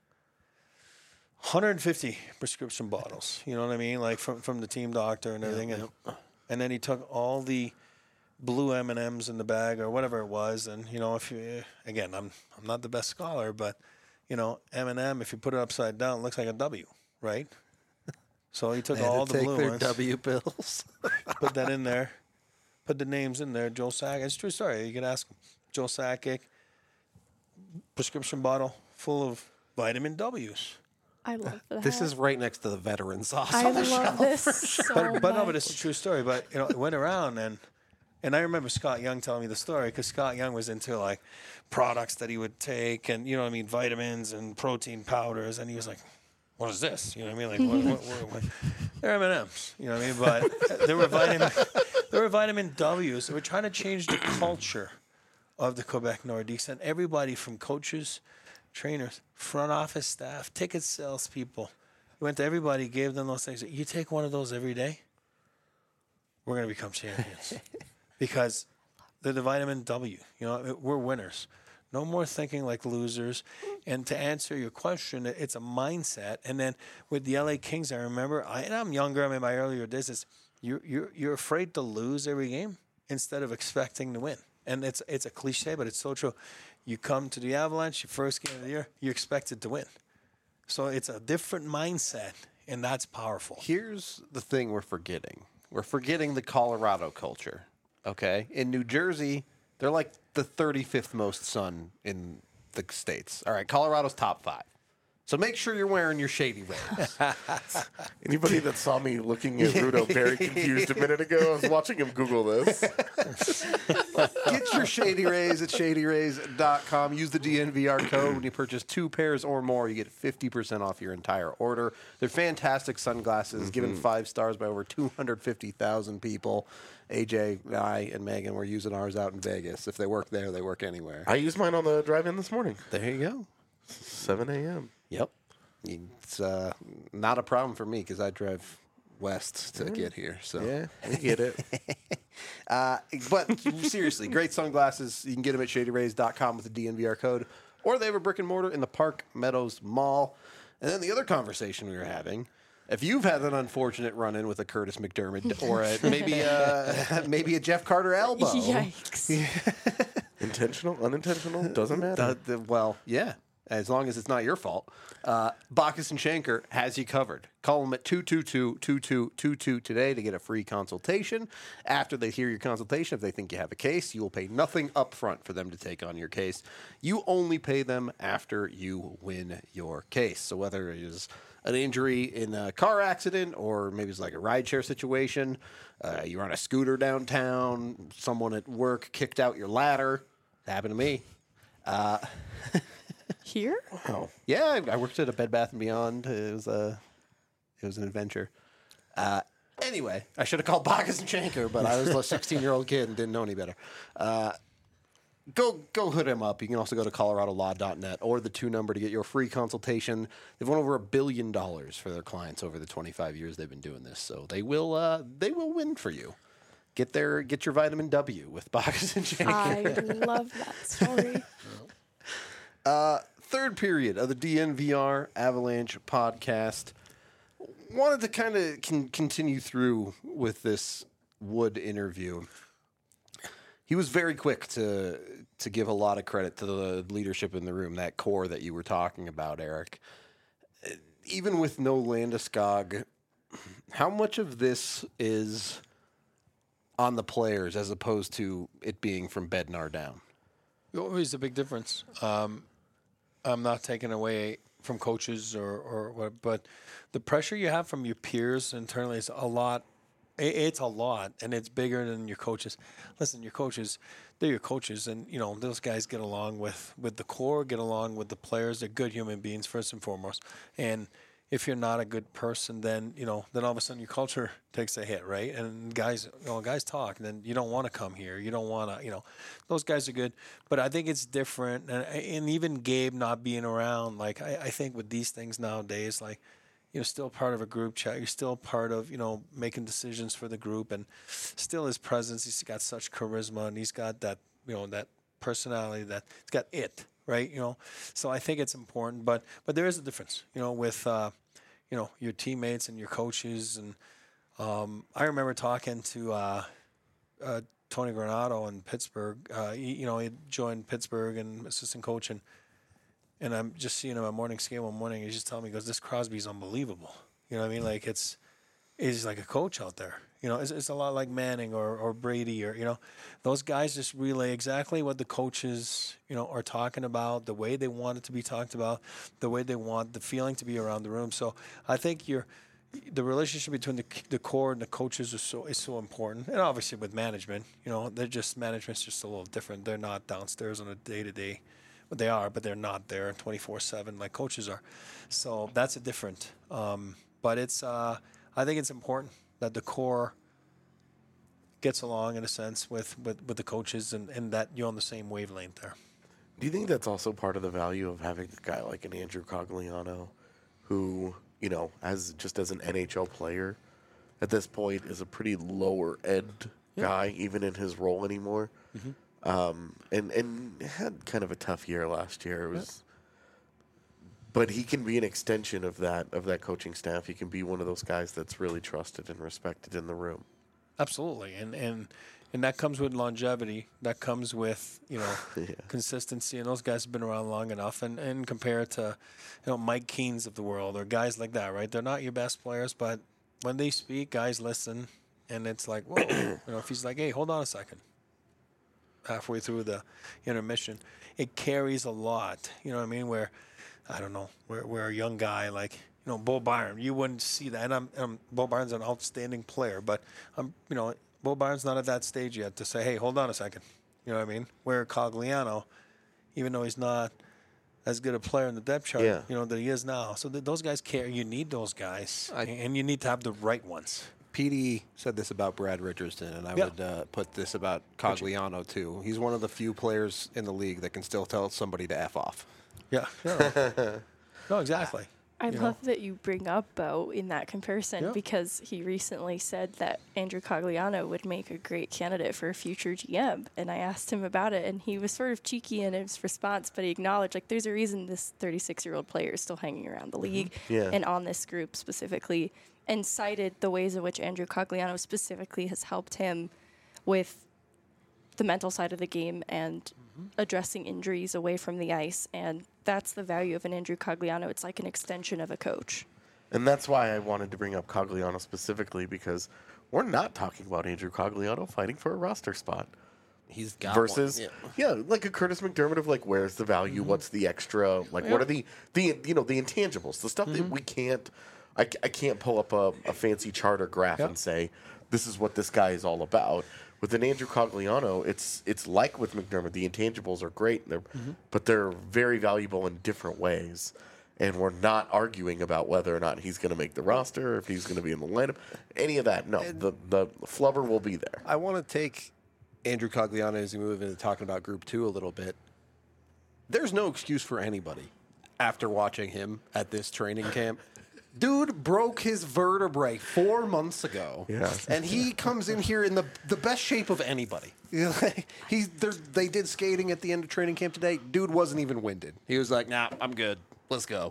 one hundred fifty prescription bottles, you know what I mean? Like from, from the team doctor and everything. Yep, and, yep. and then he took all the blue M and M's in the bag or whatever it was. And, you know, if you, again, I'm, I'm not the best scholar, but you know, M and M, if you put it upside down, it looks like a W, right? So he took all to the take blue their ones, W pills, put that in there, put the names in there. Joe Sakic, it's a true story. You can ask him. Joe Sakic, prescription bottle full of vitamin W's. I love that. This is right next to the veteran sauce. I on the love shelf, this for so sure. But, but no, much. but it's a true story. But you know, it went around and. And I remember Scott Young telling me the story because Scott Young was into like products that he would take and, you know what I mean, vitamins and protein powders. And he was like, what is this? You know what I mean? Like, what, what, what, what? They're M and M's, you know what I mean? But there were vitamin, there were vitamin W's. They were trying to change the culture of the Quebec Nordiques. And everybody from coaches, trainers, front office staff, ticket salespeople, he went to everybody, gave them those things. You take one of those every day, we're going to become champions. Because they're the vitamin W. You know, we're winners. No more thinking like losers. And to answer your question, it's a mindset. And then with the L A Kings, I remember, I, and I'm younger, I'm in my earlier days, is you're, you're, you're afraid to lose every game instead of expecting to win. And it's it's a cliche, but it's so true. You come to the Avalanche, your first game of the year, you're expected to win. So it's a different mindset, and that's powerful. Here's the thing we're forgetting. We're forgetting the Colorado culture. Okay, in New Jersey, they're like the thirty-fifth most sun in the states. All right, Colorado's top five. So make sure you're wearing your Shady Rays. Anybody that saw me looking at Rudo very confused a minute ago, I was watching him Google this. Get your Shady Rays at shady rays dot com. Use the D N V R code. When you purchase two pairs or more, you get fifty percent off your entire order. They're fantastic sunglasses, mm-hmm. given five stars by over two hundred fifty thousand people. A J, I, and Megan were using ours out in Vegas. If they work there, they work anywhere. I used mine on the drive-in this morning. There you go. seven a.m. Yep. It's uh, not a problem for me because I drive west to mm. get here. So yeah, I get it. uh, but seriously, great sunglasses. You can get them at shady rays dot com with the D N V R code, or they have a brick and mortar in the Park Meadows Mall. And then the other conversation we were having, if you've had an unfortunate run-in with a Curtis McDermott or a, maybe a, maybe a Jeff Carter elbow. Yikes. Intentional, unintentional, doesn't matter. The, the, well, yeah. As long as it's not your fault. Uh, Bacchus and Shanker has you covered. Call them at two two two, two two two two today to get a free consultation. After they hear your consultation, if they think you have a case, you will pay nothing up front for them to take on your case. You only pay them after you win your case. So whether it is an injury in a car accident or maybe it's like a rideshare situation, uh, you're on a scooter downtown, someone at work kicked out your ladder. It happened to me. Uh Here? Wow. Yeah, I worked at a Bed Bath and Beyond. It was a, it was an adventure. Uh, anyway, I should have called Bacchus and Shanker, but I was a sixteen-year-old kid and didn't know any better. Uh, go go hood him up. You can also go to colorado law dot net or the two number to get your free consultation. They've won over a billion dollars for their clients over the twenty-five years they've been doing this, so they will uh, they will win for you. Get their get your vitamin W with Bacchus and Shanker. I love that story. Uh, third period of the D N V R Avalanche podcast. Wanted to kind of con- continue through with this Wood interview. He was very quick to to give a lot of credit to the leadership in the room, that core that you were talking about, Eric. Even with no Landeskog, how much of this is on the players as opposed to it being from Bednar down? Always a big difference. Um, I'm not taking away from coaches or, or what, but the pressure you have from your peers internally is a lot. It's a lot, and it's bigger than your coaches. Listen, your coaches, they're your coaches, and, you know, those guys get along with, with the core, get along with the players. They're good human beings, first and foremost. And if you're not a good person, then, you know, then all of a sudden your culture takes a hit, right? And guys, you know, guys talk, and then you don't want to come here. You don't want to, you know, those guys are good. But I think it's different. And, and even Gabe not being around, like, I, I think with these things nowadays, like, you're still part of a group chat. You're still part of, you know, making decisions for the group. And still his presence, he's got such charisma, and he's got that, you know, that personality, that it's got it. Right, you know, so I think it's important, but but there is a difference, you know, with uh, you know, your teammates and your coaches, and um, I remember talking to uh, uh, Tony Granato in Pittsburgh. Uh, he, you know, he joined Pittsburgh and assistant coach, and and I'm just seeing him at morning skate one morning. He's just telling me, he goes, "This Crosby's unbelievable." You know what I mean? Like it's he's like a coach out there. You know, it's, it's a lot like Manning or, or Brady, or, you know, those guys just relay exactly what the coaches, you know, are talking about, the way they want it to be talked about, the way they want the feeling to be around the room. So I think you're, the relationship between the the core and the coaches is so is so important. And obviously with management, you know, they're just, management's just a little different. They're not downstairs on a day-to-day. Well, they are, but they're not there twenty-four seven like coaches are. So that's a different. Um, but it's, uh, I think it's important that the core gets along in a sense with, with, with the coaches, and, and that you're on the same wavelength there. Do you think that's also part of the value of having a guy like an Andrew Cogliano, who, you know, as just as an N H L player, at this point is a pretty lower end yeah. guy, even in his role anymore, mm-hmm. um, and and had kind of a tough year last year. It was. Yeah. But he can be an extension of that of that coaching staff. He can be one of those guys that's really trusted and respected in the room. Absolutely, and and and that comes with longevity. That comes with, you know, yeah. consistency. And those guys have been around long enough. And and compared to, you know, Mike Keens of the world or guys like that, right? They're not your best players, but when they speak, guys listen, and it's like, whoa. You know, if he's like, hey, hold on a second. Halfway through the intermission, it carries a lot. You know what I mean? Where I don't know, where, where a young guy like, you know, Bo Byron, you wouldn't see that. And I'm, I'm Bo Byron's an outstanding player, but I'm, you know, Bo Byron's not at that stage yet to say, hey, hold on a second. You know what I mean? Where Cogliano, even though he's not as good a player in the depth chart, Yeah. you know, that he is now. So th- those guys care. You need those guys, I- and you need to have the right ones. P D said this about Brad Richardson, and I Yeah. would uh, put this about Cogliano, too. He's one of the few players in the league that can still tell somebody to F off. Yeah. yeah. No, exactly. I You love that you bring up Bo in that comparison Yeah. because he recently said that Andrew Cogliano would make a great candidate for a future G M. And I asked him about it, and he was sort of cheeky in his response, but he acknowledged, like, there's a reason this thirty-six-year-old player is still hanging around the league Yeah. and on this group specifically, and cited the ways in which Andrew Cogliano specifically has helped him with the mental side of the game and addressing injuries away from the ice. And that's the value of an Andrew Cogliano. It's like an extension of a coach. And that's why I wanted to bring up Cogliano specifically, because we're not talking about Andrew Cogliano fighting for a roster spot. He's got Versus, one. yeah. like a Curtis McDermott of like, where's the value? What's the extra? Like, what are the the you know the intangibles, the stuff that we can't. I, c- I can't pull up a, a fancy chart or graph Yep. and say this is what this guy is all about. With an Andrew Cogliano, it's it's like with McDermott. The intangibles are great, they're, but they're very valuable in different ways. And we're not arguing about whether or not he's going to make the roster, or if he's going to be in the lineup, any of that. No, the the flubber will be there. I want to take Andrew Cogliano as we move into talking about Group Two a little bit. There's no excuse for anybody after watching him at this training camp. Dude broke his vertebrae four months ago, Yeah. and he comes in here in the the best shape of anybody. He's they did skating at the end of training camp today. Dude wasn't even winded. He was like, "Nah, I'm good. Let's go."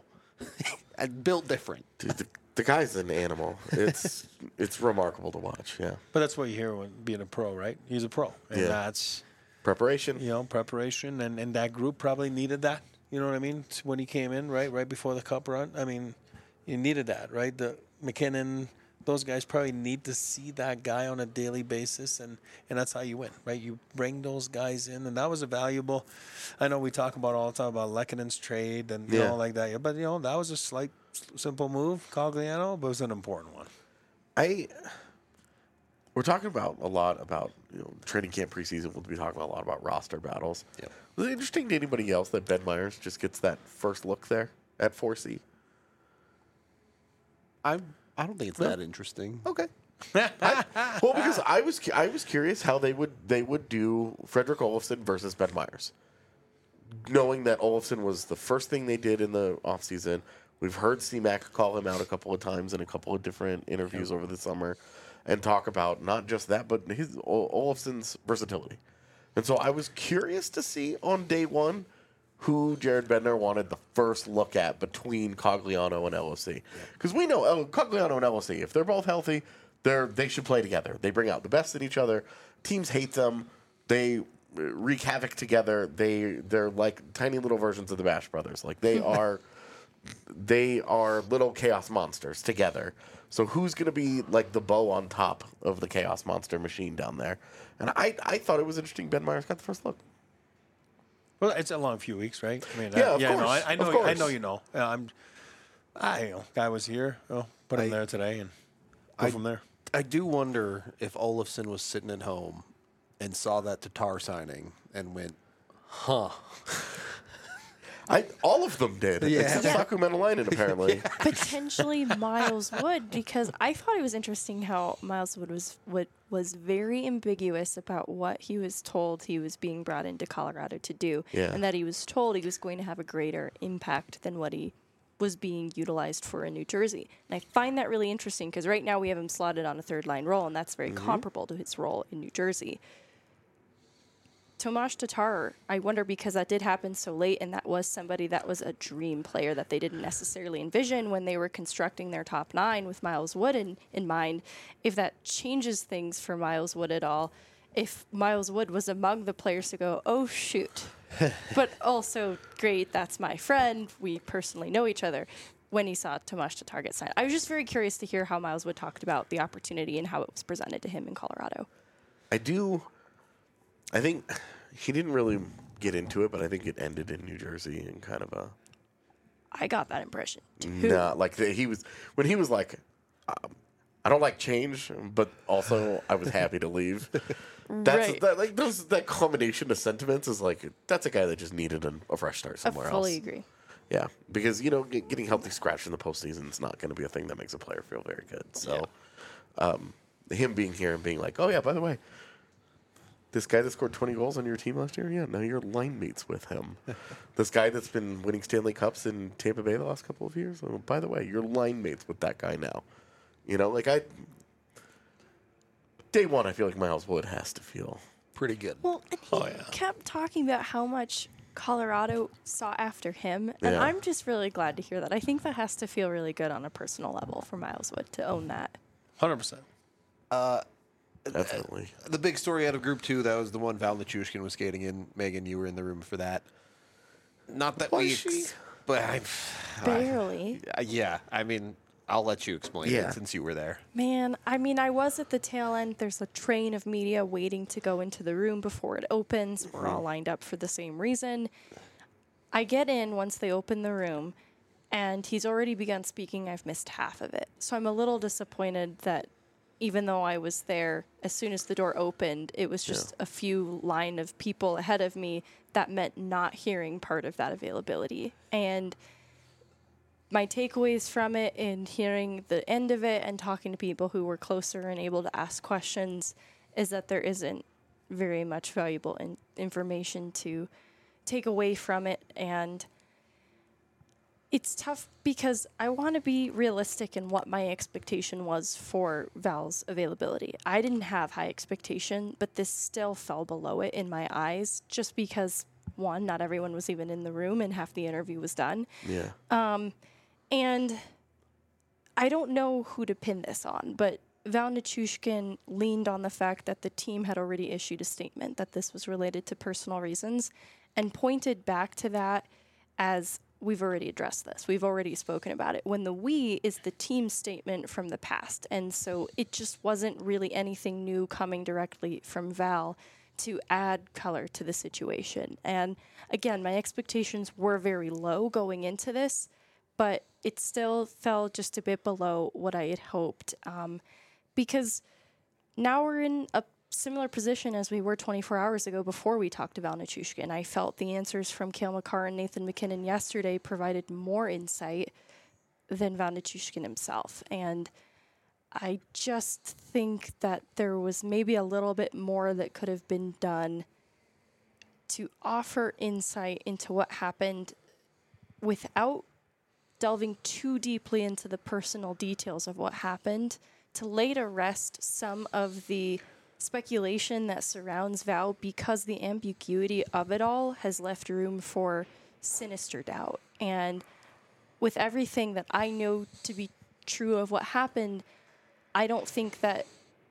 And built different. Dude, the, the guy's an animal. It's it's remarkable to watch. Yeah, But that's what you hear when being a pro, right? He's a pro. And Yeah. that's, preparation. you know, preparation. And, and that group probably needed that. You know what I mean? T- When he came in, right? Right before the cup run. I mean, you needed that, right? The McKinnon, those guys probably need to see that guy on a daily basis. And, and that's how you win, right? You bring those guys in. And that was a valuable. I know we talk about all the time about Lekkonen's trade and you Yeah. know, like that. But, you know, that was a slight, s- simple move, Cogliano, but it was an important one. I we're talking about a lot about you know training camp preseason. We'll be talking about a lot about roster battles. Yep. Was it interesting to anybody else that Ben Myers just gets that first look there at four C? I I don't think it's that interesting. Okay. I, well, because I was cu- I was curious how they would they would do Frederick Olofsson versus Ben Myers, knowing that Olofsson was the first thing they did in the offseason. We've heard C Mac call him out a couple of times in a couple of different interviews over the summer, and talk about not just that, but his Ol- Olofsson's versatility. And so I was curious to see on day one who Jared Bednar wanted the first look at between Cogliano and L O C. Because we know El- Cogliano and L O C, if they're both healthy, they're, they should play together. They bring out the best in each other. Teams hate them. They uh, wreak havoc together. They, they're like tiny little versions of the Bash Brothers. Like they are... They are little chaos monsters together. So who's going to be like the bow on top of the chaos monster machine down there? And I, I thought it was interesting. Ben Myers got the first look. Well, it's a long few weeks, right? I mean, Yeah, I, of yeah, no, course, I, I of know, I course. know, you know. Uh, I'm, I you know, guy was here. Oh, put him I- there today and go I- from there. I do wonder if Olofsson was sitting at home and saw that Tatar signing and went, "Huh." I all of them did, Yeah. except Yeah. Saku Menelainen apparently. Potentially Miles Wood, because I thought it was interesting how Miles Wood was what was very ambiguous about what he was told he was being brought into Colorado to do, Yeah. and that he was told he was going to have a greater impact than what he was being utilized for in New Jersey. And I find that really interesting because right now we have him slotted on a third line role, and that's very comparable to his role in New Jersey. Tomas Tatar, I wonder because that did happen so late, and that was somebody that was a dream player that they didn't necessarily envision when they were constructing their top nine with Miles Wood in, in mind. If that changes things for Miles Wood at all, if Miles Wood was among the players to go, oh, shoot. But also, great, that's my friend. We personally know each other. When he saw Tomas Tatar get signed, I was just very curious to hear how Miles Wood talked about the opportunity and how it was presented to him in Colorado. I do. I think he didn't really get into it, but I think it ended in New Jersey in kind of a. I got that impression too. Nah, like the, he was when he was like, um, I don't like change, but also I was happy to leave. That's Right. that, like those that combination of sentiments is like that's a guy that just needed an, a fresh start I somewhere fully else. agree. Yeah, because you know get, getting healthy scratched in the postseason is not going to be a thing that makes a player feel very good. So, um, him being here and being like, oh yeah, by the way, this guy that scored twenty goals on your team last year, yeah, now you're line mates with him. This guy that's been winning Stanley Cups in Tampa Bay the last couple of years, oh, by the way, you're line mates with that guy now. You know, like I, day one, I feel like Miles Wood has to feel. Pretty good. Well, and he Oh, yeah. kept talking about how much Colorado sought after him, and Yeah. I'm just really glad to hear that. I think that has to feel really good on a personal level for Miles Wood to own that. one hundred percent. Definitely. The big story out of Group Two, that was the one Val Nichushkin was skating in. Megan, you were in the room for that. Not that Was we, she? ex- but I, Barely. I, yeah. I mean, I'll let you explain Yeah. it since you were there. Man, I mean, I was at the tail end. There's a train of media waiting to go into the room before it opens. We're all lined up for the same reason. I get in once they open the room, and he's already begun speaking. I've missed half of it. So I'm a little disappointed that even though I was there, as soon as the door opened, it was just a few line of people ahead of me that meant not hearing part of that availability. And my takeaways from it and hearing the end of it and talking to people who were closer and able to ask questions is that there isn't very much valuable in- information to take away from it. And it's tough because I want to be realistic in what my expectation was for Val's availability. I didn't have high expectation, but this still fell below it in my eyes just because, one, not everyone was even in the room and half the interview was done. Yeah. And I don't know who to pin this on, but Val Nichushkin leaned on the fact that the team had already issued a statement that this was related to personal reasons and pointed back to that as we've already addressed this. We've already spoken about it. When the we is the team statement from the past. And so it just wasn't really anything new coming directly from Val to add color to the situation. And again, my expectations were very low going into this, but it still fell just a bit below what I had hoped. Um, because now we're in a similar position as we were twenty-four hours ago before we talked about Nichushkin. I felt the answers from Cale Makar and Nathan MacKinnon yesterday provided more insight than Val Nichushkin himself. And I just think that there was maybe a little bit more that could have been done to offer insight into what happened without delving too deeply into the personal details of what happened, to lay to rest some of the speculation that surrounds Val, because the ambiguity of it all has left room for sinister doubt. And with everything that I know to be true of what happened, I don't think that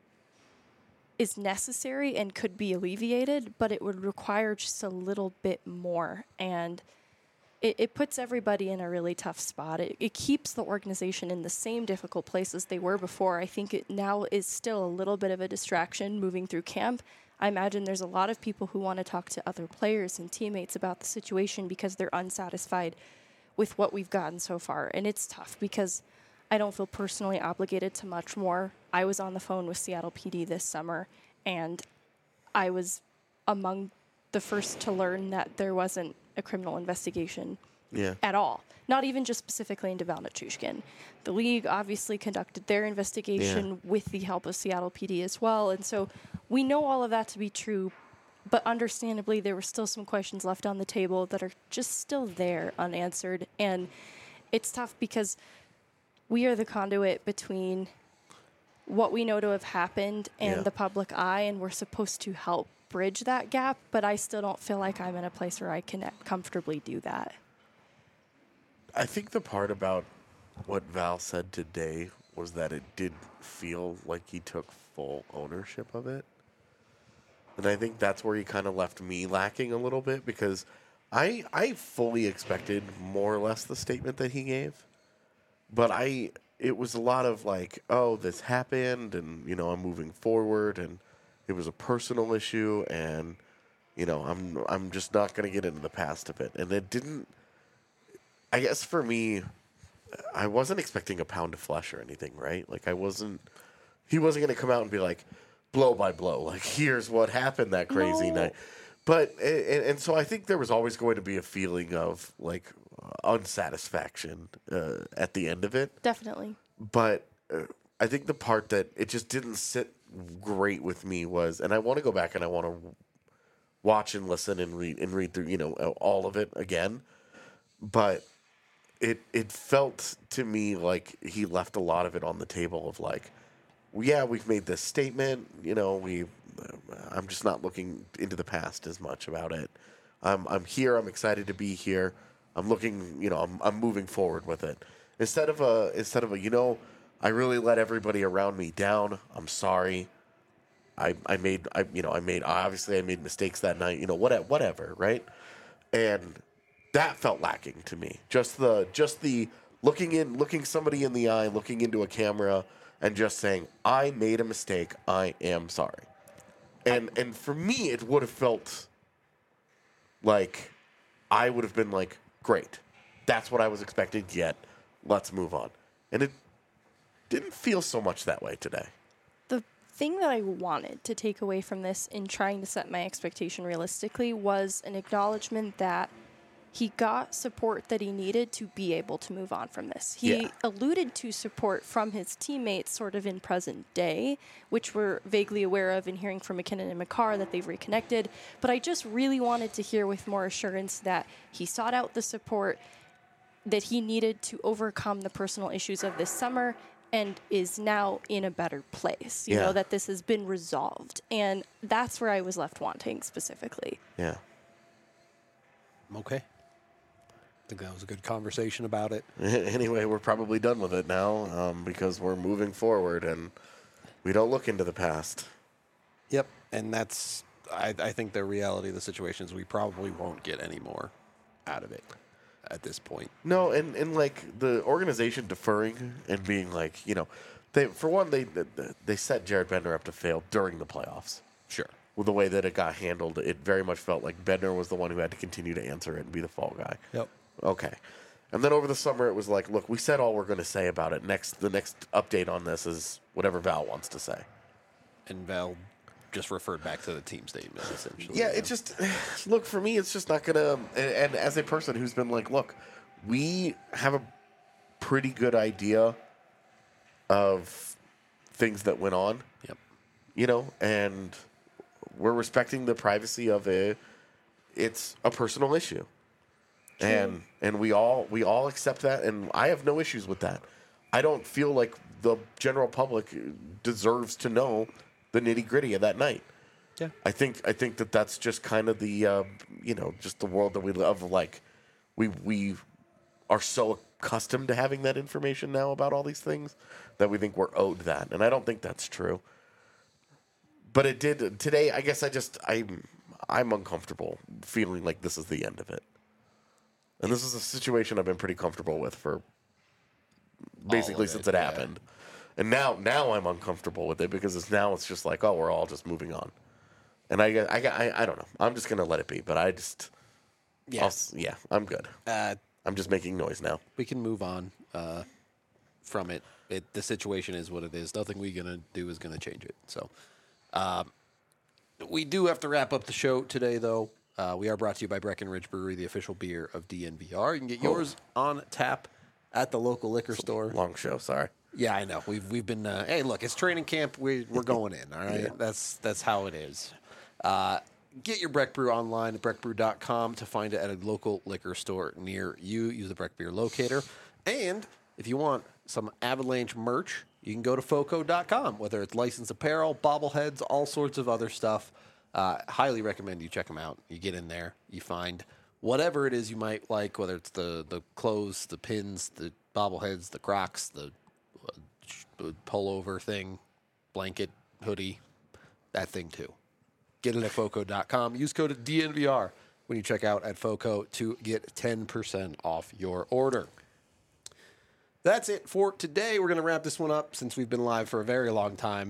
is necessary and could be alleviated, but it would require just a little bit more. And it, it puts everybody in a really tough spot. It, it keeps the organization in the same difficult place as they were before. I think it now is still a little bit of a distraction moving through camp. I imagine there's a lot of people who want to talk to other players and teammates about the situation because they're unsatisfied with what we've gotten so far. And it's tough because I don't feel personally obligated to much more. I was on the phone with Seattle P D this summer, and I was among the first to learn that there wasn't a criminal investigation Yeah. at all. Not even just specifically into Val Nichushkin. The league obviously conducted their investigation Yeah. with the help of Seattle P D as well. And so we know all of that to be true, but understandably there were still some questions left on the table that are just still there unanswered. And it's tough because we are the conduit between what we know to have happened and Yeah. the public eye, and we're supposed to help bridge that gap, but I still don't feel like I'm in a place where I can comfortably do that. I think the part about what Val said today was that it did feel like he took full ownership of it. And I think that's where he kind of left me lacking a little bit, because I I fully expected more or less the statement that he gave. But I it was a lot of like, oh, this happened and, you know, I'm moving forward and it was a personal issue and, you know, I'm I'm just not going to get into the past of it. And it didn't I guess for me, I wasn't expecting a pound of flesh or anything, right? Like I wasn't. He wasn't going to come out and be like, blow by blow, like here's what happened that crazy No. night. But and, and so I think there was always going to be a feeling of like unsatisfaction uh, at the end of it. Definitely. But uh, I think the part that it just didn't sit great with me was, and I want to go back and I want to watch and listen and read and read through, you know, all of it again. But it it felt to me like he left a lot of it on the table of like, well, yeah, we've made this statement, you know, we. I'm just not looking into the past as much about it. I'm I'm here. I'm excited to be here. I'm looking, you know, I'm I'm moving forward with it. Instead of a instead of a, you know, I really let everybody around me down. I'm sorry. I I made I you know I made obviously I made mistakes that night. You know what whatever right, and that felt lacking to me. Just the just the looking in looking somebody in the eye, looking into a camera, and just saying I made a mistake. I am sorry. And and for me, it would have felt like I would have been like, great, that's what I was expecting. Yet, let's move on. And it didn't feel so much that way today. The thing that I wanted to take away from this in trying to set my expectation realistically was an acknowledgement that he got support that he needed to be able to move on from this. He Yeah. alluded to support from his teammates sort of in present day, which we're vaguely aware of in hearing from McKinnon and McCarr that they've reconnected. But I just really wanted to hear with more assurance that he sought out the support that he needed to overcome the personal issues of this summer and is now in a better place. You Yeah. know, that this has been resolved. And that's where I was left wanting specifically. Yeah. Okay. I think that was a good conversation about it. Anyway, we're probably done with it now um, because we're moving forward and we don't look into the past. Yep. And that's, I, I think the reality of the situation is we probably won't get any more out of it at this point. No, and, and like the organization deferring and being like, you know, they for one, they they set Jared Bednar up to fail during the playoffs. Sure. With the way that it got handled, it very much felt like Bednar was the one who had to continue to answer it and be the fall guy. Yep. Okay. And then over the summer, it was like, look, we said all we're going to say about it. Next, the next update on this is whatever Val wants to say. And Val just referred back to the team statement, essentially. Yeah, it just, look, for me, it's just not going to, and, and as a person who's been like, look, we have a pretty good idea of things that went on, Yep. you know, and we're respecting the privacy of it. It's a personal issue. And and we all we all accept that, and I have no issues with that. I don't feel like the general public deserves to know the nitty gritty of that night. Yeah. I think I think that that's just kind of the uh, you know just the world that we live. Like we we are so accustomed to having that information now about all these things that we think we're owed that, and I don't think that's true. But it did today. I guess I just I'm I'm uncomfortable feeling like this is the end of it. And this is a situation I've been pretty comfortable with for basically it, since it yeah. happened. And now now I'm uncomfortable with it because it's now it's just like, oh, we're all just moving on. And I I I, I don't know. I'm just going to let it be, but I just Yeah. I'll, yeah, I'm good. Uh, I'm just making noise now. we can move on uh, from it. It. The situation is what it is. Nothing we're going to do is going to change it. So um, we do have to wrap up the show today, though. Uh, we are brought to you by Breckenridge Brewery, the official beer of D N V R. You can get yours on tap at the local liquor store. Long show, sorry. Yeah, I know. We've we've been. Uh, hey, look, it's training camp. We we're going in. All right, Yeah. that's that's how it is. Uh, get your Breck Brew online at breck brew dot com to find it at a local liquor store near you. Use the Breck Beer Locator, and if you want some Avalanche merch, you can go to foco dot com. Whether it's licensed apparel, bobbleheads, all sorts of other stuff. Uh, highly recommend you check them out. You get in there, you find whatever it is you might like, whether it's the, the clothes, the pins, the bobbleheads, the Crocs, the uh, pullover thing, blanket, hoodie, that thing too. Get it at foco dot com. Use code D N V R when you check out at Foco to get ten percent off your order. That's it for today. We're going to wrap this one up since we've been live for a very long time.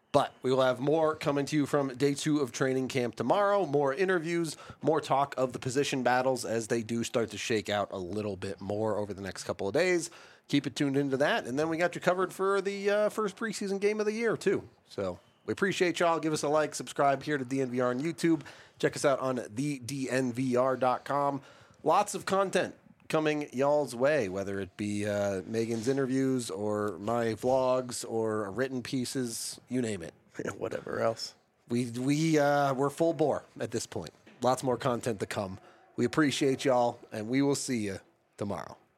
But we will have more coming to you from day two of training camp tomorrow. More interviews, more talk of the position battles as they do start to shake out a little bit more over the next couple of days. Keep it tuned into that. And then we got you covered for the uh, first preseason game of the year, too. So we appreciate y'all. Give us a like, subscribe here to D N V R on YouTube. Check us out on the D N V R dot com. Lots of content coming y'all's way, whether it be uh, Megan's interviews or my vlogs or written pieces, you name it. Yeah, whatever else. We we uh, we're full bore at this point. Lots more content to come. We appreciate y'all, and we will see you tomorrow.